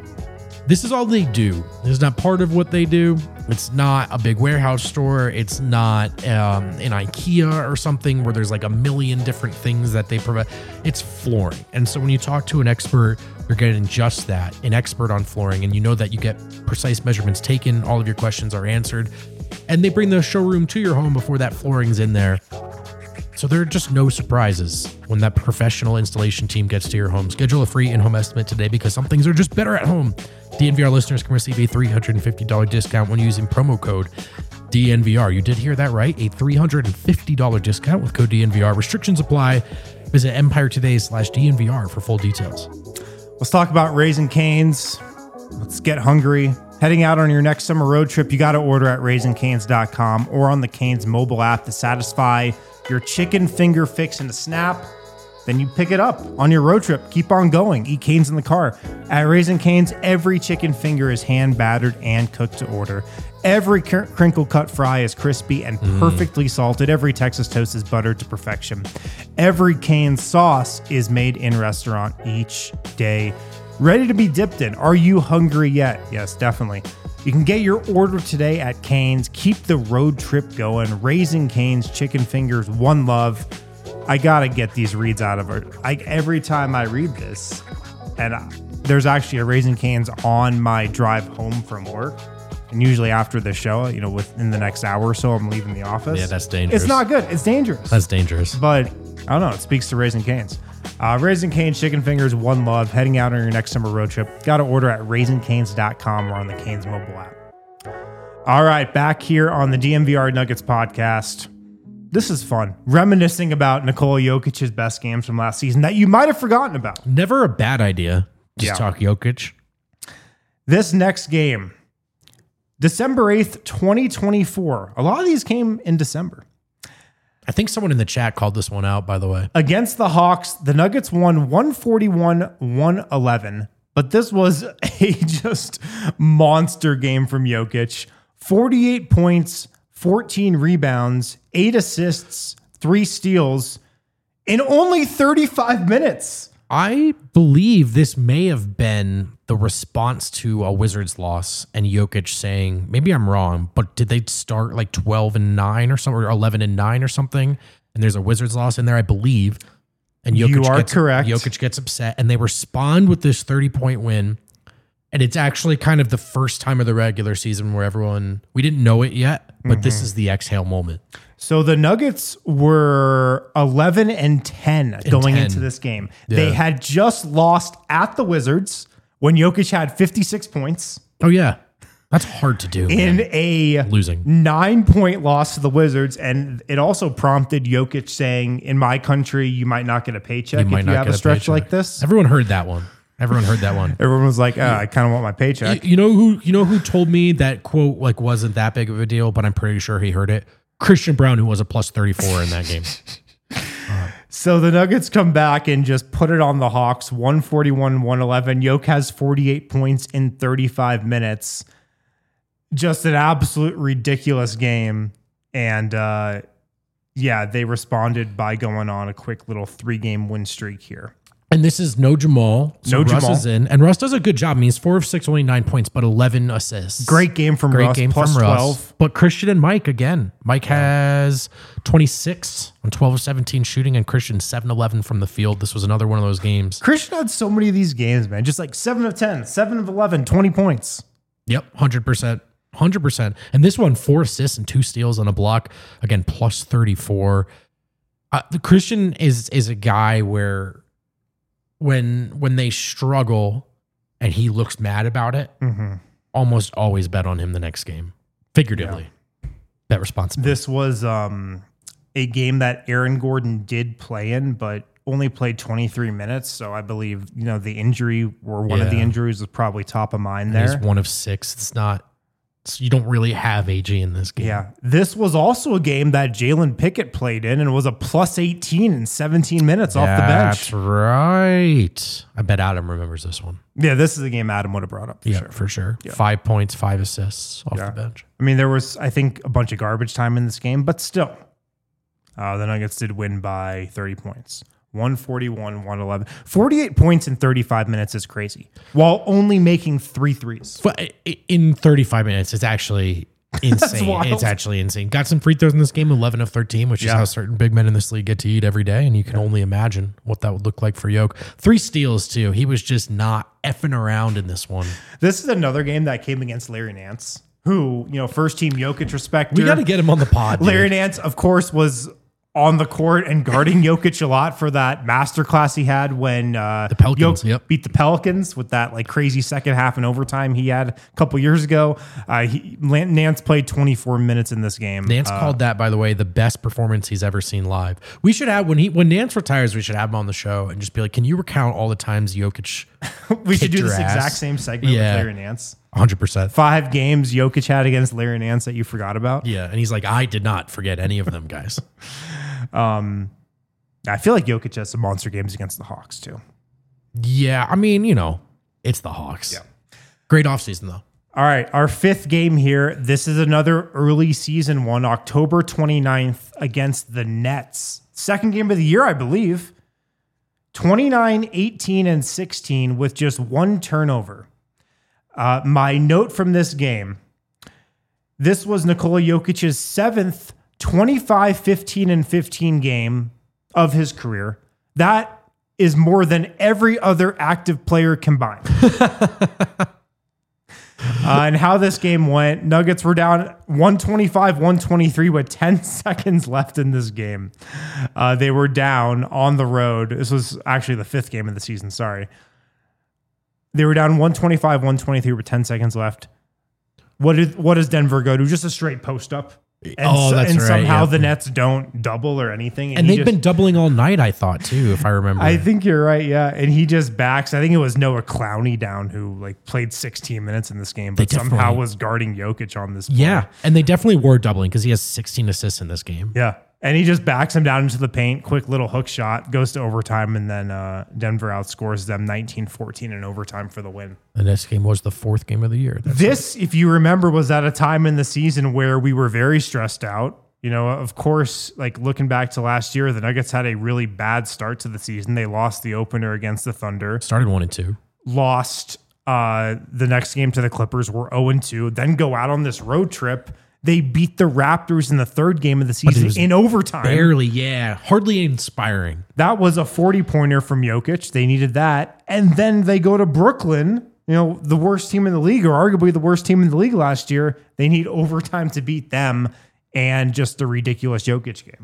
Speaker 2: This is all they do. This is not part of what they do. It's not a big warehouse store. It's not um, an IKEA or something where there's like a million different things that they provide. It's flooring. And so when you talk to an expert, you're getting just that, an expert on flooring. And you know that you get precise measurements taken. All of your questions are answered. And they bring the showroom to your home before that flooring's in there. So there are just no surprises when that professional installation team gets to your home. Schedule a free in-home estimate today because some things are just better at home. D N V R listeners can receive a three hundred fifty dollars discount when using promo code D N V R. You did hear that right. A three hundred fifty dollars discount with code D N V R. Restrictions apply. Visit Empire Today slash D N V R for full details.
Speaker 1: Let's talk about Raising Cane's. Let's get hungry. Heading out on your next summer road trip, you got to order at raising canes dot com or on the Cane's mobile app to satisfy your chicken finger fix in a snap. Then you pick it up on your road trip. Keep on going. Eat Cane's in the car. At Raising Cane's, every chicken finger is hand battered and cooked to order. Every cr- crinkle cut fry is crispy and
Speaker 2: Mm.
Speaker 1: perfectly salted. Every Texas toast is buttered to perfection. Every Cane's sauce is made in restaurant each day. Ready to be dipped in. Are you hungry yet? Yes, definitely. You can get your order today at Cane's. Keep the road trip going. Raising Cane's chicken fingers, one love. I gotta get these reads out of it. I, every time I read this, and uh, there's actually a Raising Cane's on my drive home from work. And usually after the show, you know, within the next hour or so, I'm leaving the office.
Speaker 2: Yeah, that's dangerous.
Speaker 1: It's not good. It's dangerous.
Speaker 2: That's dangerous.
Speaker 1: But I don't know. It speaks to Raising Cane's. Uh, Raising Cane's chicken fingers, one love. Heading out on your next summer road trip. Got to order at raising canes dot com or on the Cane's mobile app. All right, back here on the D N V R Nuggets podcast. This is fun. Reminiscing about Nikola Jokic's best games from last season that you might have forgotten about.
Speaker 2: Never a bad idea. Just
Speaker 1: Yeah.
Speaker 2: talk Jokic.
Speaker 1: This next game, December eighth, twenty twenty-four. A lot of these came in December.
Speaker 2: I think someone in the chat called this one out, by the way.
Speaker 1: Against the Hawks, the Nuggets won one forty-one one eleven, but this was a just monster game from Jokic. forty-eight points, fourteen rebounds, eight assists, three steals in only thirty-five minutes.
Speaker 2: I believe this may have been the response to a Wizards loss and Jokic saying, maybe I'm wrong, but did they start like twelve and nine or something, or eleven and nine or something? And there's a Wizards loss in there, I believe. And Jokic
Speaker 1: You are
Speaker 2: gets,
Speaker 1: correct.
Speaker 2: Jokic gets upset and they respond with this thirty point win. And it's actually kind of the first time of the regular season where everyone, we didn't know it yet, but
Speaker 1: Mm-hmm.
Speaker 2: this is the exhale moment.
Speaker 1: So the Nuggets were eleven and ten going
Speaker 2: ten.
Speaker 1: into this game.
Speaker 2: Yeah.
Speaker 1: They had just lost at the Wizards when Jokic had fifty-six points
Speaker 2: Oh, yeah. That's hard to do.
Speaker 1: in
Speaker 2: man.
Speaker 1: a
Speaker 2: Losing.
Speaker 1: nine-point loss to the Wizards. And it also prompted Jokic saying, in my country, you might not get a paycheck if you have a stretch
Speaker 2: paycheck.
Speaker 1: like this.
Speaker 2: Everyone heard that one. Everyone heard that one.
Speaker 1: Everyone was like, oh, I kind of want my paycheck.
Speaker 2: You, you know who? You know who told me that quote like wasn't that big of a deal, but I'm pretty sure he heard it. Christian Braun, who was a plus thirty-four in that game.
Speaker 1: So the Nuggets come back and just put it on the Hawks, one forty-one one eleven. Jokic has forty-eight points in thirty-five minutes. Just an absolute ridiculous game. And uh, yeah, they responded by going on a quick little three-game win streak here.
Speaker 2: And this is no Jamal. So
Speaker 1: No
Speaker 2: Russ
Speaker 1: Jamal.
Speaker 2: is in. And Russ does a good job. I mean, he's four of six, only nine points, but eleven assists.
Speaker 1: Great game from
Speaker 2: Great
Speaker 1: Russ.
Speaker 2: game
Speaker 1: plus
Speaker 2: from Russ.
Speaker 1: twelve.
Speaker 2: But Christian and Mike, again. Mike has twenty-six on twelve of seventeen shooting, and Christian seven eleven from the field. This was another one of those games.
Speaker 1: Christian had so many of these games, man. Just like seven of ten, seven of eleven, twenty points.
Speaker 2: Yep, one hundred percent. one hundred percent. And this one, four assists and two steals on a block. Again, plus thirty-four. Uh, the Christian is is a guy where when when they struggle and he looks mad about it,
Speaker 1: Mm-hmm.
Speaker 2: almost always bet on him the next game. Figuratively. Bet responsibly.
Speaker 1: This was um, a game that Aaron Gordon did play in, but only played twenty-three minutes. So I believe, you know, the injury or one of the
Speaker 2: Yeah.
Speaker 1: injuries was probably top of mind
Speaker 2: And
Speaker 1: there.
Speaker 2: He's one of six. It's not, it's, you don't really have A G in this game.
Speaker 1: Yeah. This was also a game that Jalen Pickett played in and was a plus eighteen in seventeen minutes off the bench.
Speaker 2: That's right. I bet Adam remembers this one.
Speaker 1: Yeah, this is a game Adam would have brought up for
Speaker 2: Yeah,
Speaker 1: sure.
Speaker 2: for sure. Five points, five assists off
Speaker 1: Yeah.
Speaker 2: the bench.
Speaker 1: I mean, there was, I think, a bunch of garbage time in this game, but still, uh, the Nuggets did win by thirty points. one forty-one, one eleven. forty-eight points in thirty-five minutes is crazy, while only making three threes.
Speaker 2: But i- in thirty-five minutes, it's actually insane.
Speaker 1: wild.
Speaker 2: It's actually insane. Got some free throws in this game, eleven of thirteen, which is
Speaker 1: Yeah.
Speaker 2: how certain big men in this league get to eat every day. And you can only imagine what that would look like for Yoke. Three steals, too. He was just not effing around in this one.
Speaker 1: This is another game that came against Larry Nance, who, you know, first team Jokic respecter.
Speaker 2: We got to get him on the pod. dude.
Speaker 1: Larry Nance, of course, was on the court and guarding Jokic a lot for that masterclass he had when uh, the
Speaker 2: Pelicans,
Speaker 1: Jokic
Speaker 2: yep.
Speaker 1: beat the Pelicans with that like crazy second half and overtime he had a couple years ago. Uh, he, Lan- Nance played twenty-four minutes in this game.
Speaker 2: Nance
Speaker 1: Uh,
Speaker 2: called that, by the way, the best performance he's ever seen live. We should have when he when Nance retires, we should have him on the show and just be like, "Can you recount all the times Jokic?"
Speaker 1: we should
Speaker 2: kicked
Speaker 1: do this
Speaker 2: your ass?
Speaker 1: exact same segment
Speaker 2: Yeah.
Speaker 1: with Larry Nance.
Speaker 2: one hundred percent.
Speaker 1: Five games Jokic had against Larry Nance that you forgot about.
Speaker 2: Yeah, and he's like, "I did not forget any of them, guys."
Speaker 1: I feel like Jokic has some monster games against the Hawks too.
Speaker 2: Yeah, I mean, you know, it's the Hawks.
Speaker 1: Yeah.
Speaker 2: Great offseason, though.
Speaker 1: All right, our fifth game here. This is another early season one, October twenty-ninth against the Nets. Second game of the year, I believe. twenty-nine, eighteen, and sixteen with just one turnover. Uh, my note from this game, this was Nikola Jokic's seventh twenty-five, fifteen, and fifteen game of his career. That is more than every other active player combined. Uh, and how this game went, Nuggets were down one twenty-five, one twenty-three with ten seconds left in this game. Uh, they were down on the road. This was actually the fifth game of the season. Sorry. They were down one twenty-five, one twenty-three with ten seconds left. What did what does Denver go to? Just a straight post up. And,
Speaker 2: Oh,
Speaker 1: so-
Speaker 2: that's
Speaker 1: and
Speaker 2: right,
Speaker 1: somehow
Speaker 2: yeah.
Speaker 1: the Nets don't double or anything.
Speaker 2: And
Speaker 1: he
Speaker 2: they've
Speaker 1: just-
Speaker 2: been doubling all night, I thought, too, if I remember.
Speaker 1: I think you're right, yeah. And he just backs. I think it was Noah Clowney down who like played sixteen minutes in this game, but
Speaker 2: They
Speaker 1: somehow
Speaker 2: definitely-
Speaker 1: was guarding Jokic on this play.
Speaker 2: yeah, and they definitely were doubling because he has sixteen assists in this game.
Speaker 1: Yeah. And he just backs him down into the paint, quick little hook shot, goes to overtime, and then uh, Denver outscores them nineteen fourteen in overtime for the win.
Speaker 2: And this game was the fourth game of the year. That's
Speaker 1: This, if you remember, was at a time in the season where we were very stressed out. You know, of course, like looking back to last year, the Nuggets had a really bad start to the season. They lost the opener against the Thunder,
Speaker 2: started one and two.
Speaker 1: lost uh, the next game to the Clippers, were oh and two, then go out on this road trip. They beat the Raptors in the third game of the season
Speaker 2: was
Speaker 1: in overtime.
Speaker 2: Barely, yeah. Hardly inspiring.
Speaker 1: That was a forty-pointer from Jokic. They needed that. And then they go to Brooklyn, you know, the worst team in the league, or arguably the worst team in the league last year. They need overtime to beat them and just a ridiculous Jokic game.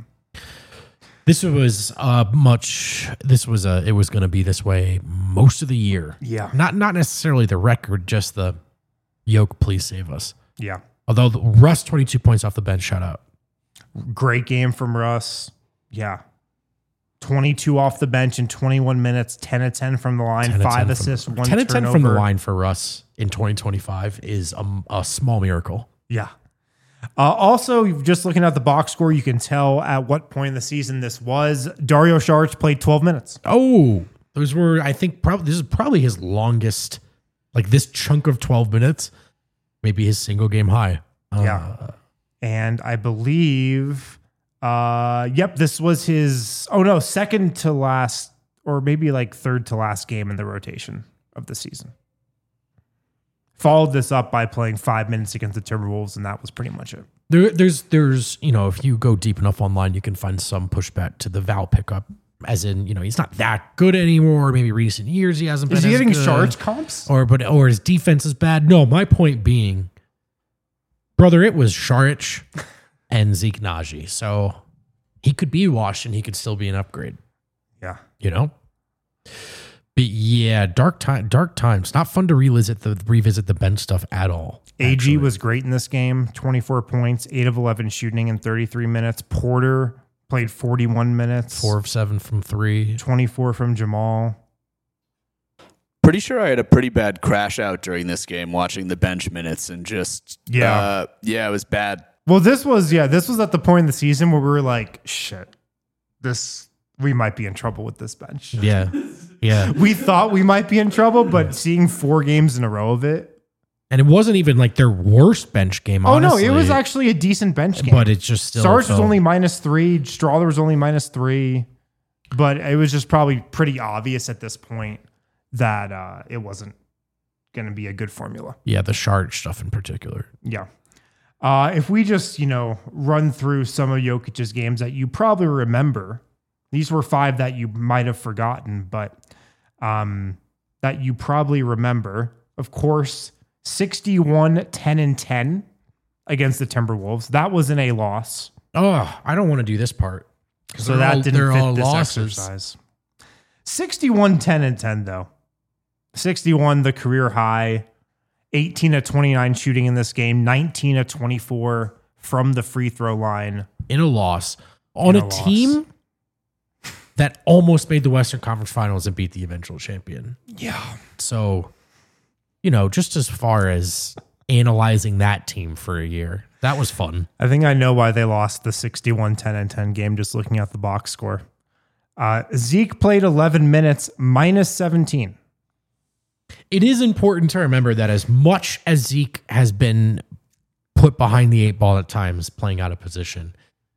Speaker 2: This was uh much this was a it was going to be this way most of the year.
Speaker 1: Yeah.
Speaker 2: Not not necessarily the record, just the Yoke, please save us.
Speaker 1: Yeah.
Speaker 2: Although the Russ twenty-two points off the bench, shout out.
Speaker 1: Great game from Russ. Yeah. twenty-two off the bench in twenty-one minutes, ten of ten from the line,
Speaker 2: ten of
Speaker 1: five
Speaker 2: ten
Speaker 1: assists,
Speaker 2: from,
Speaker 1: one
Speaker 2: ten of ten from the
Speaker 1: turnover.
Speaker 2: line for Russ in twenty twenty-five is a, a small miracle.
Speaker 1: Yeah. Uh, also, just looking at the box score, you can tell at what point in the season this was. Dario Saric played twelve minutes.
Speaker 2: Oh, those were I think probably this is probably his longest, like this chunk of twelve minutes, maybe his single game high. Uh,
Speaker 1: Yeah. And I believe, uh, yep, this was his, oh no, second to last or maybe like third to last game in the rotation of the season. Followed this up by playing five minutes against the Timberwolves, and that was pretty much it.
Speaker 2: There, there's, there's, you know, if you go deep enough online, you can find some pushback to the Val pickup, as in, you know, he's not that good anymore. Maybe recent years he hasn't been.
Speaker 1: Is he
Speaker 2: as
Speaker 1: getting
Speaker 2: good.
Speaker 1: Sharge comps?
Speaker 2: Or, but, or his defense is bad. No, my point being, brother, it was Saric and Zeke Naji. So he could be washed and he could still be an upgrade.
Speaker 1: Yeah.
Speaker 2: You know? But yeah, dark time, dark times. Not fun to revisit the revisit the bench stuff at all.
Speaker 1: A G
Speaker 2: actually.
Speaker 1: was great in this game. twenty-four points, eight of eleven shooting in thirty-three minutes. Porter played forty-one minutes.
Speaker 2: Four of seven from three.
Speaker 1: twenty-four from Jamal.
Speaker 3: Pretty sure I had a pretty bad crash out during this game watching the bench minutes and just
Speaker 1: Yeah.
Speaker 3: uh, yeah, it was bad.
Speaker 1: Well, this was, yeah, this was at the point in the season where we were like, shit, this, we might be in trouble with this bench.
Speaker 2: Yeah. Yeah.
Speaker 1: We thought we might be in trouble, but seeing four games in a row of it.
Speaker 2: And it wasn't even like their worst bench game,
Speaker 1: Oh,
Speaker 2: honestly.
Speaker 1: no, it was actually a decent bench game.
Speaker 2: But it's just still.
Speaker 1: Sarge was
Speaker 2: felt-
Speaker 1: only minus three. Strawler was only minus three. But it was just probably pretty obvious at this point that uh, it wasn't going to be a good formula.
Speaker 2: Yeah, the Sharge stuff in particular.
Speaker 1: Yeah. Uh, if we just, you know, run through some of Jokic's games that you probably remember, these were five that you might have forgotten, but um, that you probably remember. Of course, sixty-one, ten, and ten against the Timberwolves. That wasn't a loss.
Speaker 2: Oh, I don't want to do this part.
Speaker 1: So that
Speaker 2: all,
Speaker 1: didn't fit
Speaker 2: all
Speaker 1: this
Speaker 2: losses.
Speaker 1: exercise. sixty-one, ten, and ten, though. sixty-one, the career high. eighteen of twenty-nine shooting in this game. nineteen of twenty-four from the free throw line.
Speaker 2: In a loss. On
Speaker 1: In
Speaker 2: a,
Speaker 1: a loss.
Speaker 2: team that almost made the Western Conference Finals and beat the eventual champion.
Speaker 1: Yeah.
Speaker 2: So, you know, just as far as analyzing that team for a year, that was fun.
Speaker 1: I think I know why they lost the sixty-one, ten, and ten game just looking at the box score. Uh, Zeke played eleven minutes, minus seventeen.
Speaker 2: It is important to remember that as much as Zeke has been put behind the eight ball at times, playing out of position,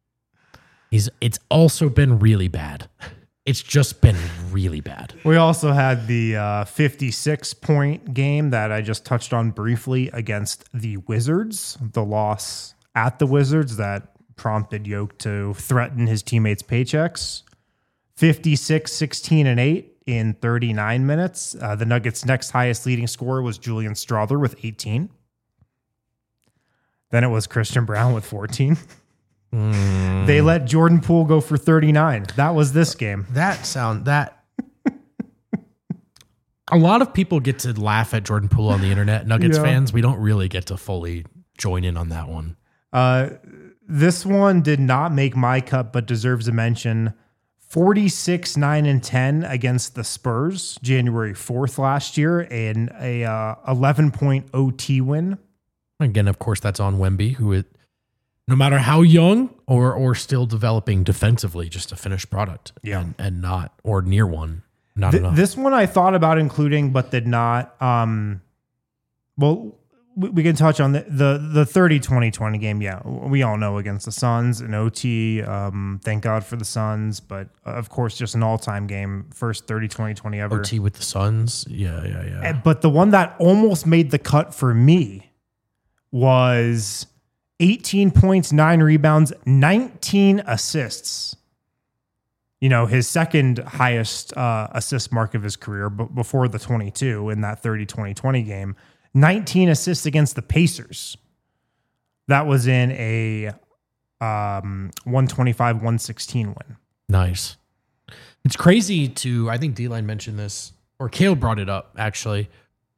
Speaker 2: he's it's also been really bad. It's just been really bad.
Speaker 1: We also had the uh, fifty-six point game that I just touched on briefly against the Wizards, the loss at the Wizards that prompted Yoke to threaten his teammates' paychecks. fifty-six, sixteen, and eight in thirty-nine minutes. Uh, the Nuggets' next highest leading scorer was Julian Strawther with eighteen. Then it was Christian Brown with fourteen.
Speaker 2: Mm.
Speaker 1: They let Jordan Poole go for thirty-nine. That was this game.
Speaker 2: That sound that a lot of people get to laugh at Jordan Poole on the internet. Nuggets
Speaker 1: Yeah.
Speaker 2: fans, we don't really get to fully join in on that one.
Speaker 1: Uh, this one did not make my cut, but deserves a mention. forty-six, nine, and ten against the Spurs, January fourth last year, in a uh, eleven point O T win.
Speaker 2: Again, of course, that's on Wemby, who it, no matter how young or or still developing defensively, just a finished product.
Speaker 1: Yeah.
Speaker 2: and, and not or near one. Not
Speaker 1: Th-
Speaker 2: enough.
Speaker 1: this one I thought about including, but did not. Um, well, we, we can touch on the, the the thirty twenty twenty game. Yeah, we all know against the Suns, an O T. Um, thank God for the Suns, but uh, of course, just an all time game. First thirty twenty twenty ever.
Speaker 2: O T with the Suns. Yeah, yeah, yeah.
Speaker 1: Uh, But the one that almost made the cut for me was eighteen points, nine rebounds, nineteen assists. You know, his second highest uh, assist mark of his career, but before the twenty-two in that thirty twenty twenty game. nineteen assists against the Pacers. That was in a um, one twenty-five one sixteen win.
Speaker 2: Nice. It's crazy to, I think D-Line mentioned this, or Kale brought it up, actually.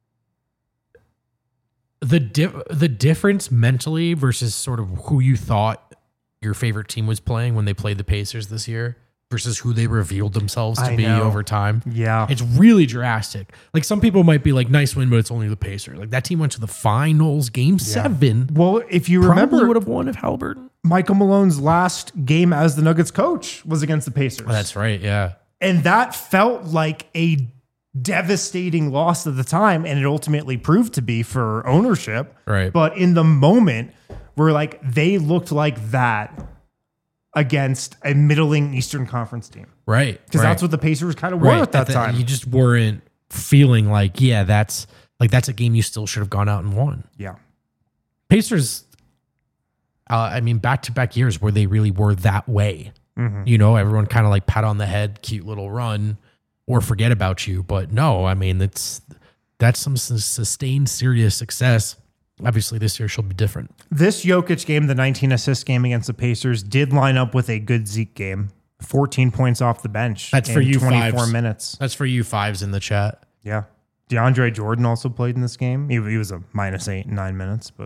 Speaker 2: The di- the difference mentally versus sort of who you thought your favorite team was playing when they played the Pacers this year versus who they revealed themselves to
Speaker 1: I
Speaker 2: be
Speaker 1: know.
Speaker 2: over time.
Speaker 1: Yeah.
Speaker 2: It's really drastic. Like some people might be like, nice win, but it's only the Pacers. Like that team went to the finals, game seven.
Speaker 1: Well, if you
Speaker 2: Probably
Speaker 1: remember,
Speaker 2: would have won if Halliburton.
Speaker 1: Michael Malone's last game as the Nuggets coach was against the Pacers.
Speaker 2: Oh, that's right. Yeah.
Speaker 1: And that felt like a devastating loss at the time, and it ultimately proved to be for ownership.
Speaker 2: Right.
Speaker 1: But in the moment, we're like, they looked like that against a middling Eastern Conference team.
Speaker 2: Right.
Speaker 1: Because
Speaker 2: right.
Speaker 1: that's what the Pacers kind of were
Speaker 2: right.
Speaker 1: at that
Speaker 2: the,
Speaker 1: time.
Speaker 2: You just weren't feeling like, yeah, that's like that's a game you still should have gone out and won.
Speaker 1: Yeah.
Speaker 2: Pacers, uh, I mean, back-to-back years where they really were that way.
Speaker 1: Mm-hmm.
Speaker 2: You know, everyone kind of like pat on the head, cute little run, or forget about you. But no, I mean, it's that's some s- sustained serious success. Obviously, this year she'll be different.
Speaker 1: This Jokic game, the nineteen assist game against the Pacers, did line up with a good Zeke game. fourteen points off the bench.
Speaker 2: That's for
Speaker 1: in
Speaker 2: you
Speaker 1: twenty-four
Speaker 2: fives.
Speaker 1: minutes.
Speaker 2: That's for you fives in the chat.
Speaker 1: Yeah. DeAndre Jordan also played in this game. He, he was a minus eight in nine minutes, but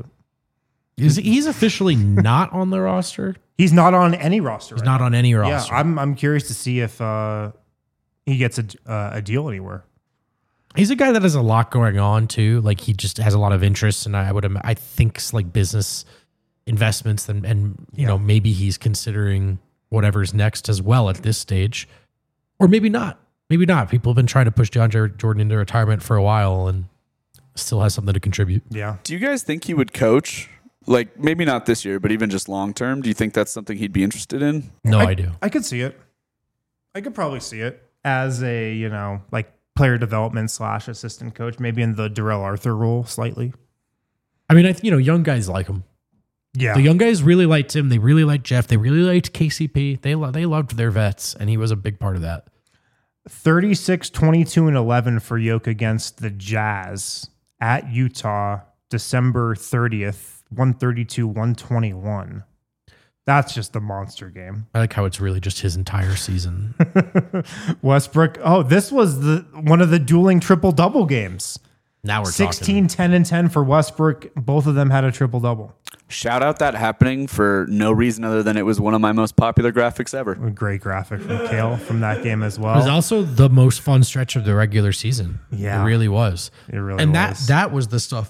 Speaker 2: Is he's officially not on the roster?
Speaker 1: he's not on any roster.
Speaker 2: He's
Speaker 1: right
Speaker 2: not
Speaker 1: now.
Speaker 2: on any
Speaker 1: Yeah,
Speaker 2: roster.
Speaker 1: I'm I'm curious to see if uh, he gets a uh, a deal anywhere.
Speaker 2: He's a guy that has a lot going on too. Like he just has a lot of interests, and I would im- I think like business investments, and and you
Speaker 1: Yeah.
Speaker 2: know maybe he's considering whatever's next as well at this stage, or maybe not. Maybe not. People have been trying to push DeAndre Jordan into retirement for a while, and still has something to contribute.
Speaker 1: Yeah.
Speaker 3: Do you guys think he would coach? Like maybe not this year, but even just long term. Do you think that's something he'd be interested in?
Speaker 2: No, I,
Speaker 1: I
Speaker 2: do.
Speaker 1: I could see it. I could probably see it as a, you know, like player development slash assistant coach, maybe in the Darrell Arthur role slightly.
Speaker 2: I mean, I th- you know, young guys like him.
Speaker 1: Yeah.
Speaker 2: The young guys really liked him. They really liked Jeff. They really liked K C P. They lo- they loved their vets, and he was a big part of that.
Speaker 1: thirty-six, twenty-two, and eleven for Yoke against the Jazz at Utah, December thirtieth, one thirty-two, one twenty-one. That's just the monster game.
Speaker 2: I like how it's really just his entire season.
Speaker 1: Westbrook. Oh, this was the one of the dueling triple double games.
Speaker 2: Now we're
Speaker 1: sixteen,
Speaker 2: talking.
Speaker 1: ten, and ten for Westbrook. Both of them had a triple double.
Speaker 3: Shout out that happening for no reason other than it was one of my most popular graphics ever.
Speaker 1: A great graphic from Kale from that game as
Speaker 2: It was
Speaker 1: well.
Speaker 2: also the most fun stretch of the regular season.
Speaker 1: Yeah.
Speaker 2: It really was.
Speaker 1: It really
Speaker 2: and
Speaker 1: was.
Speaker 2: that that was the stuff,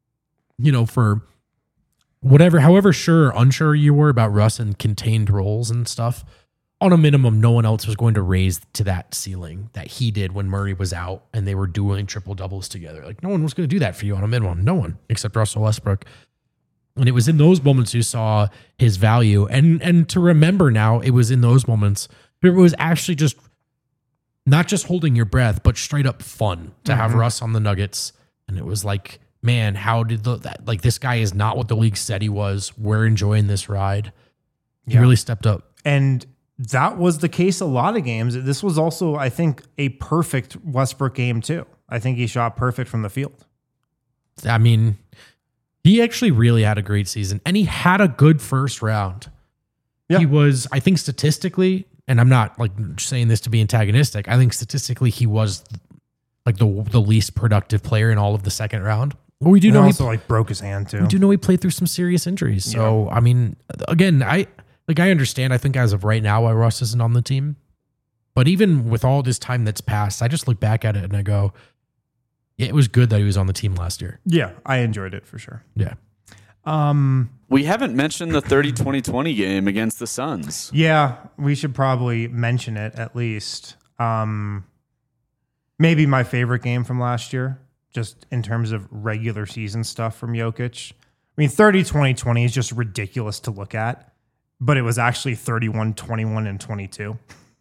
Speaker 2: you know, for whatever, however sure or unsure you were about Russ and contained roles and stuff, on a minimum, no one else was going to raise to that ceiling that he did when Murray was out and they were doing triple doubles together. Like no one was going to do that for you on a minimum. No one except Russell Westbrook. And it was in those moments you saw his value. And and to remember now, it was in those moments it was actually just not just holding your breath, but straight up fun to
Speaker 1: Mm-hmm.
Speaker 2: have Russ on the Nuggets. And it was like, man, how did the that, like this guy is not what the league said he was. We're enjoying this ride. He
Speaker 1: Yeah.
Speaker 2: really stepped up.
Speaker 1: And that was the case a lot of games. This was also, I think, a perfect Westbrook game too. I think he shot perfect from the field.
Speaker 2: I mean, he actually really had a great season, and he had a good first round.
Speaker 1: Yeah.
Speaker 2: He was, I think, statistically, and I'm not like saying this to be antagonistic. I think statistically, he was like the the least productive player in all of the second round. But we do
Speaker 1: And
Speaker 2: know he
Speaker 1: also like broke his hand too.
Speaker 2: we do know he played through some serious injuries. So I mean, again, I like I understand. I think as of right now, why Russ isn't on the team. But even with all this time that's passed, I just look back at it and I go, yeah, it was good that he was on the team last year.
Speaker 1: Yeah, I enjoyed it for sure.
Speaker 2: Yeah.
Speaker 1: Um,
Speaker 3: We haven't mentioned the thirty twenty twenty game against the Suns.
Speaker 1: yeah, we should probably mention it at least. Um, maybe my favorite game from last year, just in terms of regular season stuff from Jokic. I mean, thirty, twenty, twenty is just ridiculous to look at, but it was actually thirty-one, twenty-one, and twenty-two.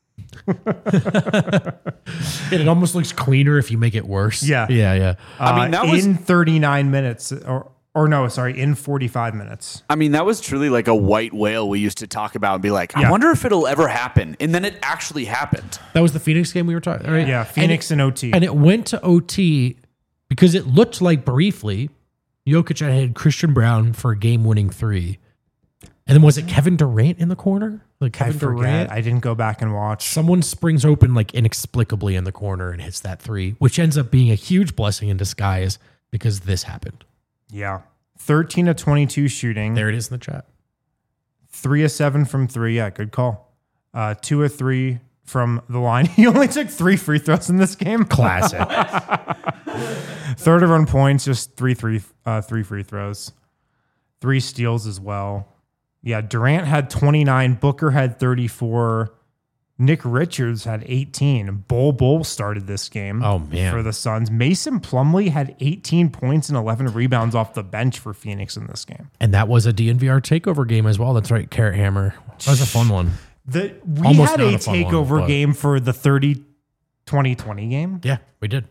Speaker 2: It almost looks cleaner if you make it worse.
Speaker 1: Yeah.
Speaker 2: Yeah. Yeah.
Speaker 3: I mean, that was-
Speaker 1: in thirty-nine minutes, or or no, sorry, in forty-five minutes.
Speaker 3: I mean, that was truly like a white whale we used to talk about and be like, I
Speaker 1: Yeah.
Speaker 3: wonder if it'll ever happen. And then it actually happened.
Speaker 2: That was the Phoenix game we were talking. Right?
Speaker 1: Yeah, Phoenix and, O T.
Speaker 2: And it went to O T because it looked like briefly Jokic had had Christian Brown for a game-winning three. And then was it Kevin Durant in the corner? Like
Speaker 1: I
Speaker 2: Kevin
Speaker 1: forget.
Speaker 2: Durant?
Speaker 1: I didn't go back and watch.
Speaker 2: Someone springs open like inexplicably in the corner and hits that three, which ends up being a huge blessing in disguise because this happened.
Speaker 1: Yeah. thirteen of twenty-two shooting.
Speaker 2: There it is in the chat.
Speaker 1: Three of seven from three. Yeah, good call. Uh, two of three from the line. He only took three free throws in this game.
Speaker 2: Classic.
Speaker 1: Third of run points, just three, three, uh, three free throws. Three steals as well. Yeah, Durant had twenty-nine. Booker had thirty-four. Nick Richards had eighteen. Bol Bol started this game.
Speaker 2: Oh, man.
Speaker 1: For the Suns. Mason Plumlee had eighteen points and eleven rebounds off the bench for Phoenix in this game.
Speaker 2: And that was a D N V R takeover game as well. That's right, Carrot Hammer. That was a fun one.
Speaker 1: The, we
Speaker 2: Almost
Speaker 1: had
Speaker 2: not
Speaker 1: a,
Speaker 2: a fun one,
Speaker 1: takeover
Speaker 2: but-
Speaker 1: game for the thirty twenty twenty game.
Speaker 2: Yeah, we did.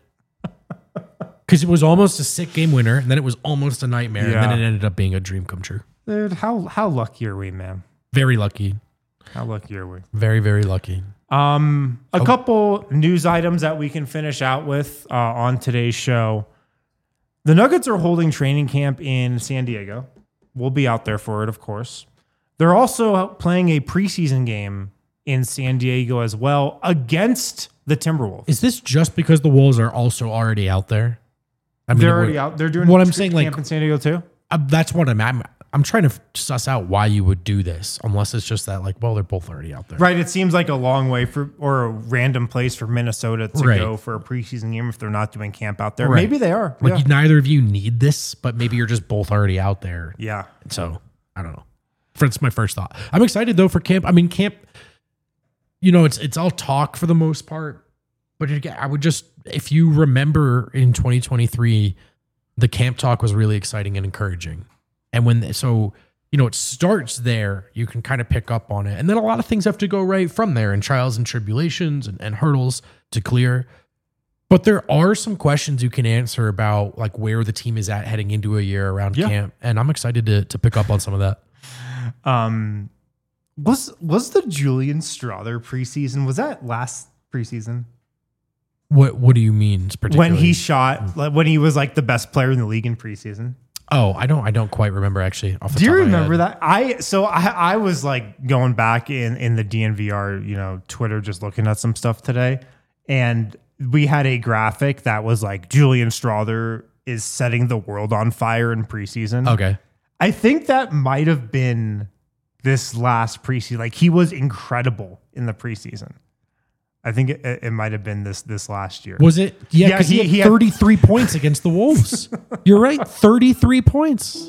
Speaker 2: Because it was almost a sick game winner, and then it was almost a nightmare,
Speaker 1: Yeah.
Speaker 2: and then it ended up being a dream come true.
Speaker 1: Dude, how how lucky are we, man?
Speaker 2: Very lucky.
Speaker 1: How lucky are we?
Speaker 2: Very, very lucky.
Speaker 1: Um, a couple news items that we can finish out with uh, on today's show. The Nuggets are holding training camp in San Diego. We'll be out there for it, of course. They're also playing a preseason game in San Diego as well against the Timberwolves.
Speaker 2: Is this just because the Wolves are also already out there? I mean,
Speaker 1: They're
Speaker 2: we're-
Speaker 1: already out. They're doing
Speaker 2: what
Speaker 1: a
Speaker 2: I'm
Speaker 1: tre-
Speaker 2: saying,
Speaker 1: camp
Speaker 2: like-
Speaker 1: in San Diego too.
Speaker 2: Uh, that's what I'm, I'm. I'm trying to suss out why you would do this, unless it's just that, like, well, they're both already out there.
Speaker 1: Right. It seems like a long way for or a random place for Minnesota to
Speaker 2: Right.
Speaker 1: go for a preseason game if they're not doing camp out there.
Speaker 2: Right.
Speaker 1: Maybe they are.
Speaker 2: Like,
Speaker 1: yeah.
Speaker 2: neither of you need this, but maybe you're just both already out there.
Speaker 1: yeah.
Speaker 2: So I don't know. That's my first thought. I'm excited though for camp. I mean, camp. You know, it's it's all talk for the most part, but again, I would just, if you remember in twenty twenty-three, the camp talk was really exciting and encouraging, and when so you know it starts there, you can kind of pick up on it, and then a lot of things have to go right from there, and trials and tribulations and, and hurdles to clear. But there are some questions you can answer about like where the team is at heading into a year around
Speaker 1: Yeah.
Speaker 2: camp, and I'm excited to to pick up on some of that.
Speaker 1: Um, was was the Julian Strother preseason? Was that last preseason
Speaker 2: What What do you mean particularly?
Speaker 1: when he shot? Like, when he was like the best player in the league in preseason?
Speaker 2: Oh, I don't. I don't quite remember actually. Off the
Speaker 1: Do you
Speaker 2: top of my
Speaker 1: remember
Speaker 2: head.
Speaker 1: that? I so I I was like going back in in the D N V R, you know, Twitter, just looking at some stuff today, and we had a graphic that was like Julian Strother is setting the world on fire in preseason.
Speaker 2: Okay.
Speaker 1: I think that might have been this last preseason. Like he was incredible in the preseason. I think it, it might have been this this last year.
Speaker 2: Was it? Yeah,
Speaker 1: Yeah,
Speaker 2: because
Speaker 1: he-
Speaker 2: he,
Speaker 1: he
Speaker 2: had
Speaker 1: had-
Speaker 2: thirty-three points against the Wolves. You're right, thirty-three points.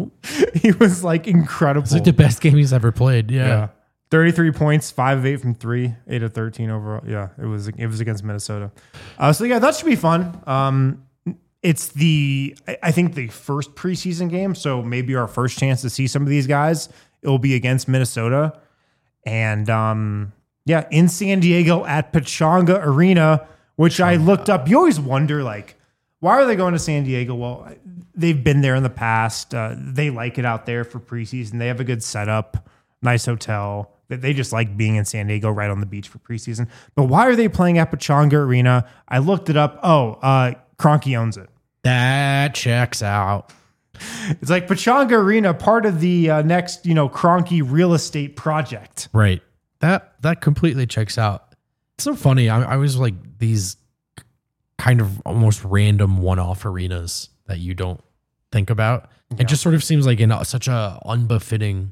Speaker 1: He was like incredible.
Speaker 2: It's like the best game he's ever played. Yeah.
Speaker 1: yeah. thirty-three points, five of eight from three, eight of thirteen overall. Yeah, it was it was against Minnesota. Uh, so yeah, that should be fun. Um, it's the I- I think the first preseason game, so maybe our first chance to see some of these guys. It will be against Minnesota, and um, yeah, in San Diego at Pechanga Arena, which I looked up. You always wonder like, why are they going to San Diego? Well, they've been there in the past. Uh, they like it out there for preseason. They have a good setup, nice hotel. They- They just like being in San Diego right on the beach for preseason. But why are they playing at Pechanga Arena? I looked it up. Oh, uh, Kroenke owns it.
Speaker 2: That checks out.
Speaker 1: It's like Pechanga Arena, part of the uh, next, you know, Kroenke real estate project.
Speaker 2: Right. That that completely checks out. It's so funny. I, I was like these kind of almost random one-off arenas that you don't think about.
Speaker 1: Yeah.
Speaker 2: It just sort of seems like in a, such a unbefitting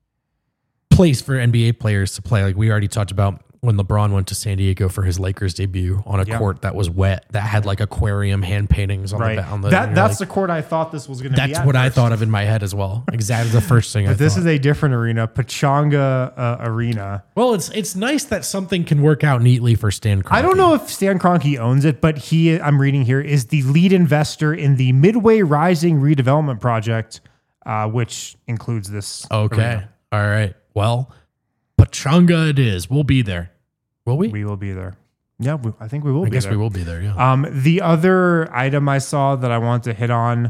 Speaker 2: place for N B A players to play. Like we already talked about when LeBron went to San Diego for his Lakers debut on a
Speaker 1: Yeah.
Speaker 2: court that was wet, that had like aquarium hand paintings on
Speaker 1: Right.
Speaker 2: the on the.
Speaker 1: that
Speaker 2: and you're
Speaker 1: that's
Speaker 2: like,
Speaker 1: the court I thought this was going to be.
Speaker 2: that's
Speaker 1: at
Speaker 2: what I
Speaker 1: first.
Speaker 2: thought of in my head as well. Exactly the first thing I
Speaker 1: But this
Speaker 2: thought.
Speaker 1: is a different arena, Pechanga uh, Arena.
Speaker 2: Well, it's it's nice that something can work out neatly for Stan Kroenke.
Speaker 1: I don't know if Stan Kroenke owns it, but he, I'm reading here, is the lead investor in the Midway Rising redevelopment project, uh, which includes this.
Speaker 2: Okay.
Speaker 1: arena.
Speaker 2: All right. Well, Pechanga it is. We'll be there. Will we?
Speaker 1: We will be there. Yeah, we, I think we will
Speaker 2: I
Speaker 1: be
Speaker 2: guess
Speaker 1: there.
Speaker 2: we will be there. Yeah.
Speaker 1: Um, the other item I saw that I want to hit on,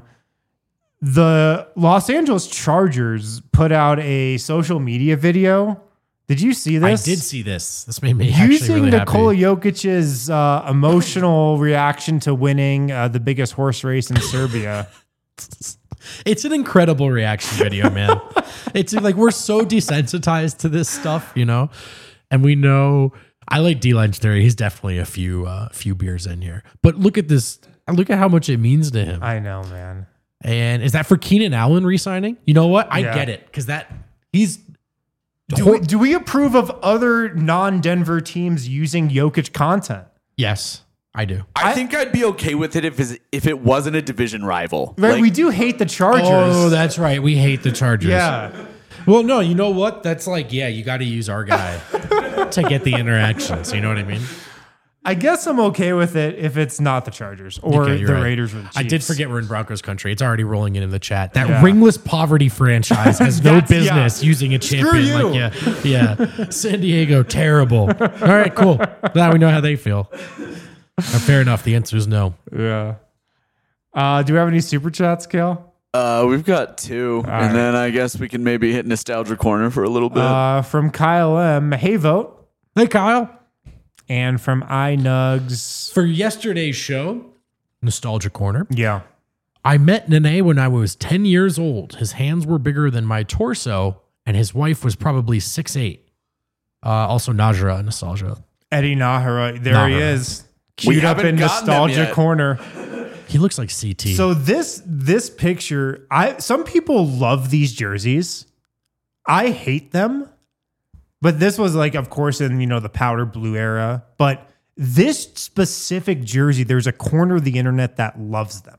Speaker 1: the Los Angeles Chargers put out a social media video. Did you see
Speaker 2: I
Speaker 1: this?
Speaker 2: did see this. This made me actually
Speaker 1: Using
Speaker 2: really
Speaker 1: Nikola
Speaker 2: happy.
Speaker 1: Jokic's uh, emotional reaction to winning uh, the biggest horse race in Serbia.
Speaker 2: It's an incredible reaction video, man. It's like we're so desensitized to this stuff, you know, and we know. I like D-Line's theory. He's definitely a few uh, few beers in here, but look at this. Look at how much it means to him.
Speaker 1: I know, man.
Speaker 2: And is that for Keenan Allen re-signing? You know what? I
Speaker 1: Yeah.
Speaker 2: get it because that he's.
Speaker 1: Do we, do we approve of other non-Denver teams using Jokic content?
Speaker 2: Yes, I do.
Speaker 3: I,
Speaker 1: I-
Speaker 3: think I'd be okay with it if it's, if it wasn't a division rival.
Speaker 1: Right,
Speaker 3: Like,
Speaker 1: we do hate the Chargers.
Speaker 2: Oh, that's right. We hate the Chargers.
Speaker 1: yeah.
Speaker 2: Well, no, you know what? That's like, yeah, you got to use our guy. to get the interactions. You know what I mean?
Speaker 1: I guess I'm okay with it if it's not the Chargers or
Speaker 2: Okay, you're
Speaker 1: the
Speaker 2: right.
Speaker 1: Raiders. With the
Speaker 2: I did
Speaker 1: Chiefs.
Speaker 2: forget we're in Broncos country. It's already rolling in in the chat. That
Speaker 1: Yeah.
Speaker 2: ringless poverty franchise has no
Speaker 1: That's-
Speaker 2: business
Speaker 1: yeah.
Speaker 2: using a champion.
Speaker 1: you.
Speaker 2: Like, yeah, yeah. San Diego, terrible. All right, cool. Now we know how they feel. Uh, fair enough. The answer is no.
Speaker 1: Yeah. Uh, do we have any super chats, Kale?
Speaker 3: Uh, we've got two, and
Speaker 1: right.
Speaker 3: then I guess we can maybe hit nostalgia corner for a little bit.
Speaker 1: Uh, from Kyle M. Hey, vote.
Speaker 2: Hey, Kyle.
Speaker 1: And from iNugs.
Speaker 2: For yesterday's show, Nostalgia Corner,
Speaker 1: Yeah.
Speaker 2: I met Nene when I was ten years old. His hands were bigger than my torso, and his wife was probably six eight. Uh, also, Najra, Nostalgia.
Speaker 1: Eddie Nahara. There he
Speaker 2: Nahara.
Speaker 1: is.
Speaker 3: We
Speaker 1: Queued up
Speaker 3: haven't
Speaker 1: in
Speaker 3: gotten them
Speaker 1: nostalgia
Speaker 3: yet.
Speaker 1: corner.
Speaker 2: He looks like C T.
Speaker 1: So this this picture, I some people love these jerseys. I hate them. But this was like, of course, in you know the powder blue era. But this specific jersey, there's a corner of the internet that loves them.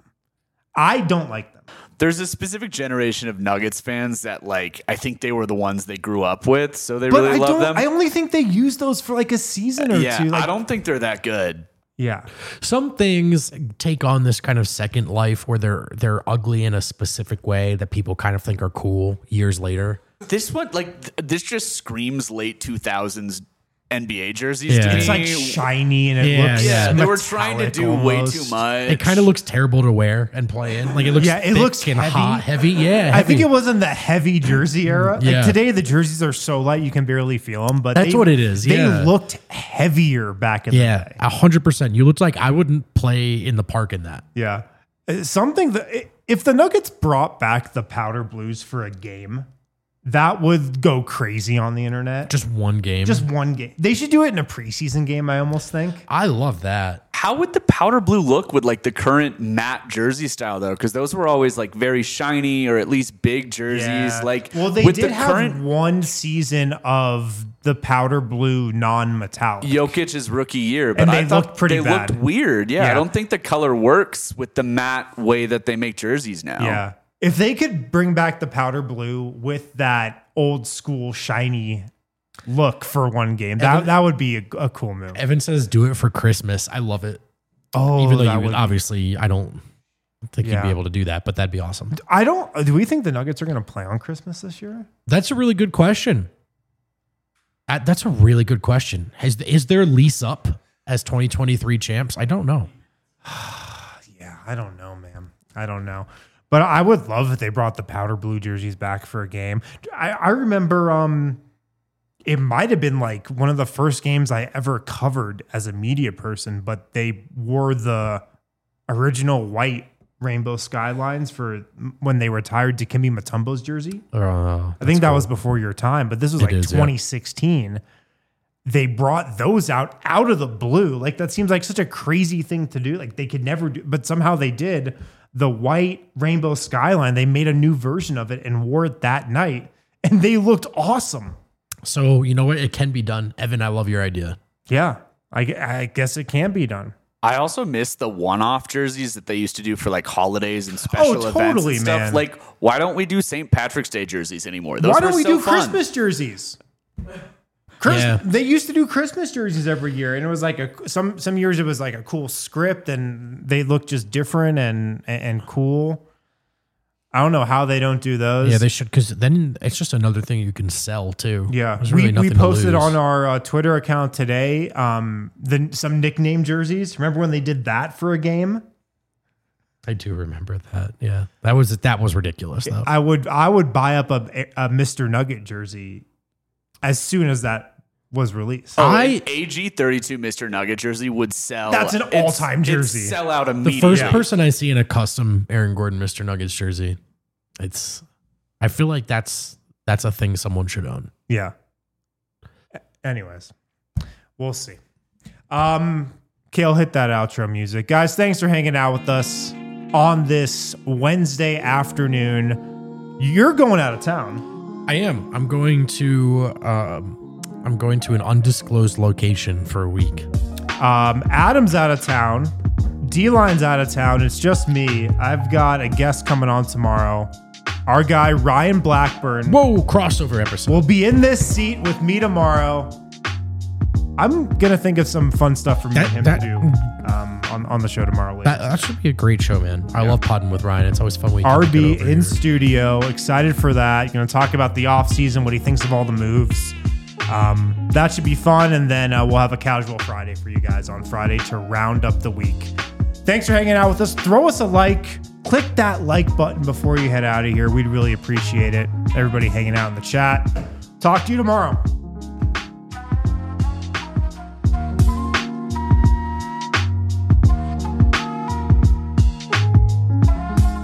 Speaker 1: I don't like them.
Speaker 3: There's a specific generation of Nuggets fans that, like, I think they were the ones they grew up with, so they
Speaker 1: But
Speaker 3: really
Speaker 1: I
Speaker 3: love
Speaker 1: don't.
Speaker 3: them.
Speaker 1: I only think they use those for like a season or
Speaker 3: yeah,
Speaker 1: two. Like,
Speaker 3: I don't think they're that good.
Speaker 1: Yeah.
Speaker 2: Some things take on this kind of second life where they're they're ugly in a specific way that people kind of think are cool years later.
Speaker 3: This one, like, th- this just screams late two thousands N B A jerseys
Speaker 2: Yeah.
Speaker 3: to me.
Speaker 1: It's like shiny and it
Speaker 2: Yeah,
Speaker 1: looks
Speaker 3: yeah,
Speaker 2: yeah.
Speaker 3: they were trying to
Speaker 1: metallic
Speaker 3: do way
Speaker 1: almost.
Speaker 3: too much.
Speaker 2: It kind of looks terrible to wear and play in. Like it looks
Speaker 1: Yeah, it
Speaker 2: thick
Speaker 1: looks
Speaker 2: and
Speaker 1: heavy.
Speaker 2: hot, heavy. Yeah,
Speaker 1: I think
Speaker 2: heavy.
Speaker 1: it was in the heavy jersey era.
Speaker 2: Yeah.
Speaker 1: Like today, the jerseys are so light you can barely feel them. But
Speaker 2: That's
Speaker 1: they-
Speaker 2: what it is,
Speaker 1: They
Speaker 2: yeah.
Speaker 1: looked heavier back in the
Speaker 2: Yeah,
Speaker 1: day.
Speaker 2: a hundred percent. You looked like I wouldn't play in the park in that.
Speaker 1: Yeah, Uh, something that if the Nuggets brought back the powder blues for a game, that would go crazy on the internet.
Speaker 2: Just one game.
Speaker 1: Just one game. They should do it in a preseason game. I almost think.
Speaker 2: I love that.
Speaker 3: How would the powder blue look with like the current matte jersey style though? Because those were always like very shiny or at least big jerseys.
Speaker 1: Yeah.
Speaker 3: Like,
Speaker 1: well, they
Speaker 3: with
Speaker 1: did
Speaker 3: the
Speaker 1: have
Speaker 3: current
Speaker 1: one season of the powder blue non-metallic.
Speaker 3: Jokic's rookie year, but
Speaker 1: And
Speaker 3: I
Speaker 1: they
Speaker 3: thought
Speaker 1: looked pretty
Speaker 3: they
Speaker 1: bad.
Speaker 3: looked weird. Yeah,
Speaker 1: Yeah.
Speaker 3: I don't think the color works with the matte way that they make jerseys now.
Speaker 1: Yeah. If they could bring back the powder blue with that old school shiny look for one game, that,
Speaker 2: Evan-
Speaker 1: that would be a, a cool move.
Speaker 2: Evan says, "Do it for Christmas." I love it.
Speaker 1: Oh,
Speaker 2: Even though
Speaker 1: that
Speaker 2: you would,
Speaker 1: would-
Speaker 2: obviously, I don't think
Speaker 1: Yeah.
Speaker 2: you'd be able to do that, but that'd be awesome.
Speaker 1: I don't. Do we think the Nuggets are going to play on Christmas this year?
Speaker 2: That's a really good question. Uh, That's a really good question. Has is their lease up as twenty twenty-three champs? I don't know.
Speaker 1: Yeah, I don't know, man. I don't know. But I would love if they brought the powder blue jerseys back for a game. I, I remember um, it might have been like one of the first games I ever covered as a media person, but they wore the original white rainbow skylines for when they retired Dikembe Mutombo's jersey.
Speaker 2: Uh,
Speaker 1: I think that was before your time, but this was
Speaker 2: It
Speaker 1: like
Speaker 2: is, yeah.
Speaker 1: twenty sixteen. They brought those out out of the blue. Like that seems like such a crazy thing to do. Like they could never do, but somehow they did. The white rainbow skyline, they made a new version of it and wore it that night, and they looked awesome.
Speaker 2: So you know what? It can be done. Evan, I love your idea.
Speaker 1: Yeah, I, gu- I guess it can be done.
Speaker 3: I also miss the one-off jerseys that they used to do for like holidays and special
Speaker 1: Oh,
Speaker 3: events
Speaker 1: totally,
Speaker 3: and stuff.
Speaker 1: man.
Speaker 3: Like, why don't we do Saint Patrick's Day jerseys anymore? Those
Speaker 1: Why don't
Speaker 3: were
Speaker 1: we
Speaker 3: so
Speaker 1: do
Speaker 3: fun.
Speaker 1: Christmas jerseys? Chris,
Speaker 2: Yeah.
Speaker 1: They used to do Christmas jerseys every year, and it was like a some some years it was like a cool script, and they looked just different and and, and cool. I don't know how they don't do those.
Speaker 2: Yeah, they should, because then it's just another thing you can sell too.
Speaker 1: Yeah,
Speaker 2: There's really
Speaker 1: we, we
Speaker 2: nothing to
Speaker 1: posted
Speaker 2: lose.
Speaker 1: on our uh, Twitter account today um, the some nickname jerseys. Remember when they did that for a game?
Speaker 2: I do remember that. Yeah, that was that was ridiculous though.
Speaker 1: I would I would buy up a, a Mister Nugget jersey as soon as that was released.
Speaker 3: Oh,
Speaker 2: I-
Speaker 3: an A G thirty-two Mister Nugget jersey would sell.
Speaker 1: That's an
Speaker 3: it's-
Speaker 1: all-time
Speaker 3: it'd
Speaker 1: jersey.
Speaker 3: Sell out
Speaker 2: the
Speaker 3: immediately.
Speaker 2: first person I see in a custom Aaron Gordon Mister Nuggets jersey, it's. I feel like that's that's a thing someone should own.
Speaker 1: Yeah. A- Anyways, we'll see. Um, Kale, hit that outro music. Guys, thanks for hanging out with us on this Wednesday afternoon. You're going out of town.
Speaker 2: I am. I'm going to. Um, I'm going to an undisclosed location for a week.
Speaker 1: Um, Adam's out of town. D-Line's out of town. It's just me. I've got a guest coming on tomorrow. Our guy, Ryan Blackburn,
Speaker 2: Whoa! Crossover episode.
Speaker 1: will be in this seat with me tomorrow. I'm gonna think of some fun stuff for me
Speaker 2: That-
Speaker 1: and him
Speaker 2: that-
Speaker 1: to do um, on on the show tomorrow. Later.
Speaker 2: That, that should be a great show, man. I love podding with Ryan. It's always fun when you
Speaker 1: R
Speaker 2: can
Speaker 1: B
Speaker 2: get over
Speaker 1: in
Speaker 2: here.
Speaker 1: studio, excited for that. You're going to talk about the off season, what he thinks of all the moves. Um, that should be fun, and then uh, we'll have a casual Friday for you guys on Friday to round up the week. Thanks for hanging out with us. Throw us a like. Click that like button before you head out of here. We'd really appreciate it. Everybody hanging out in the chat. Talk to you tomorrow.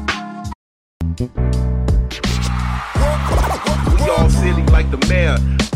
Speaker 4: We all silly like the mayor.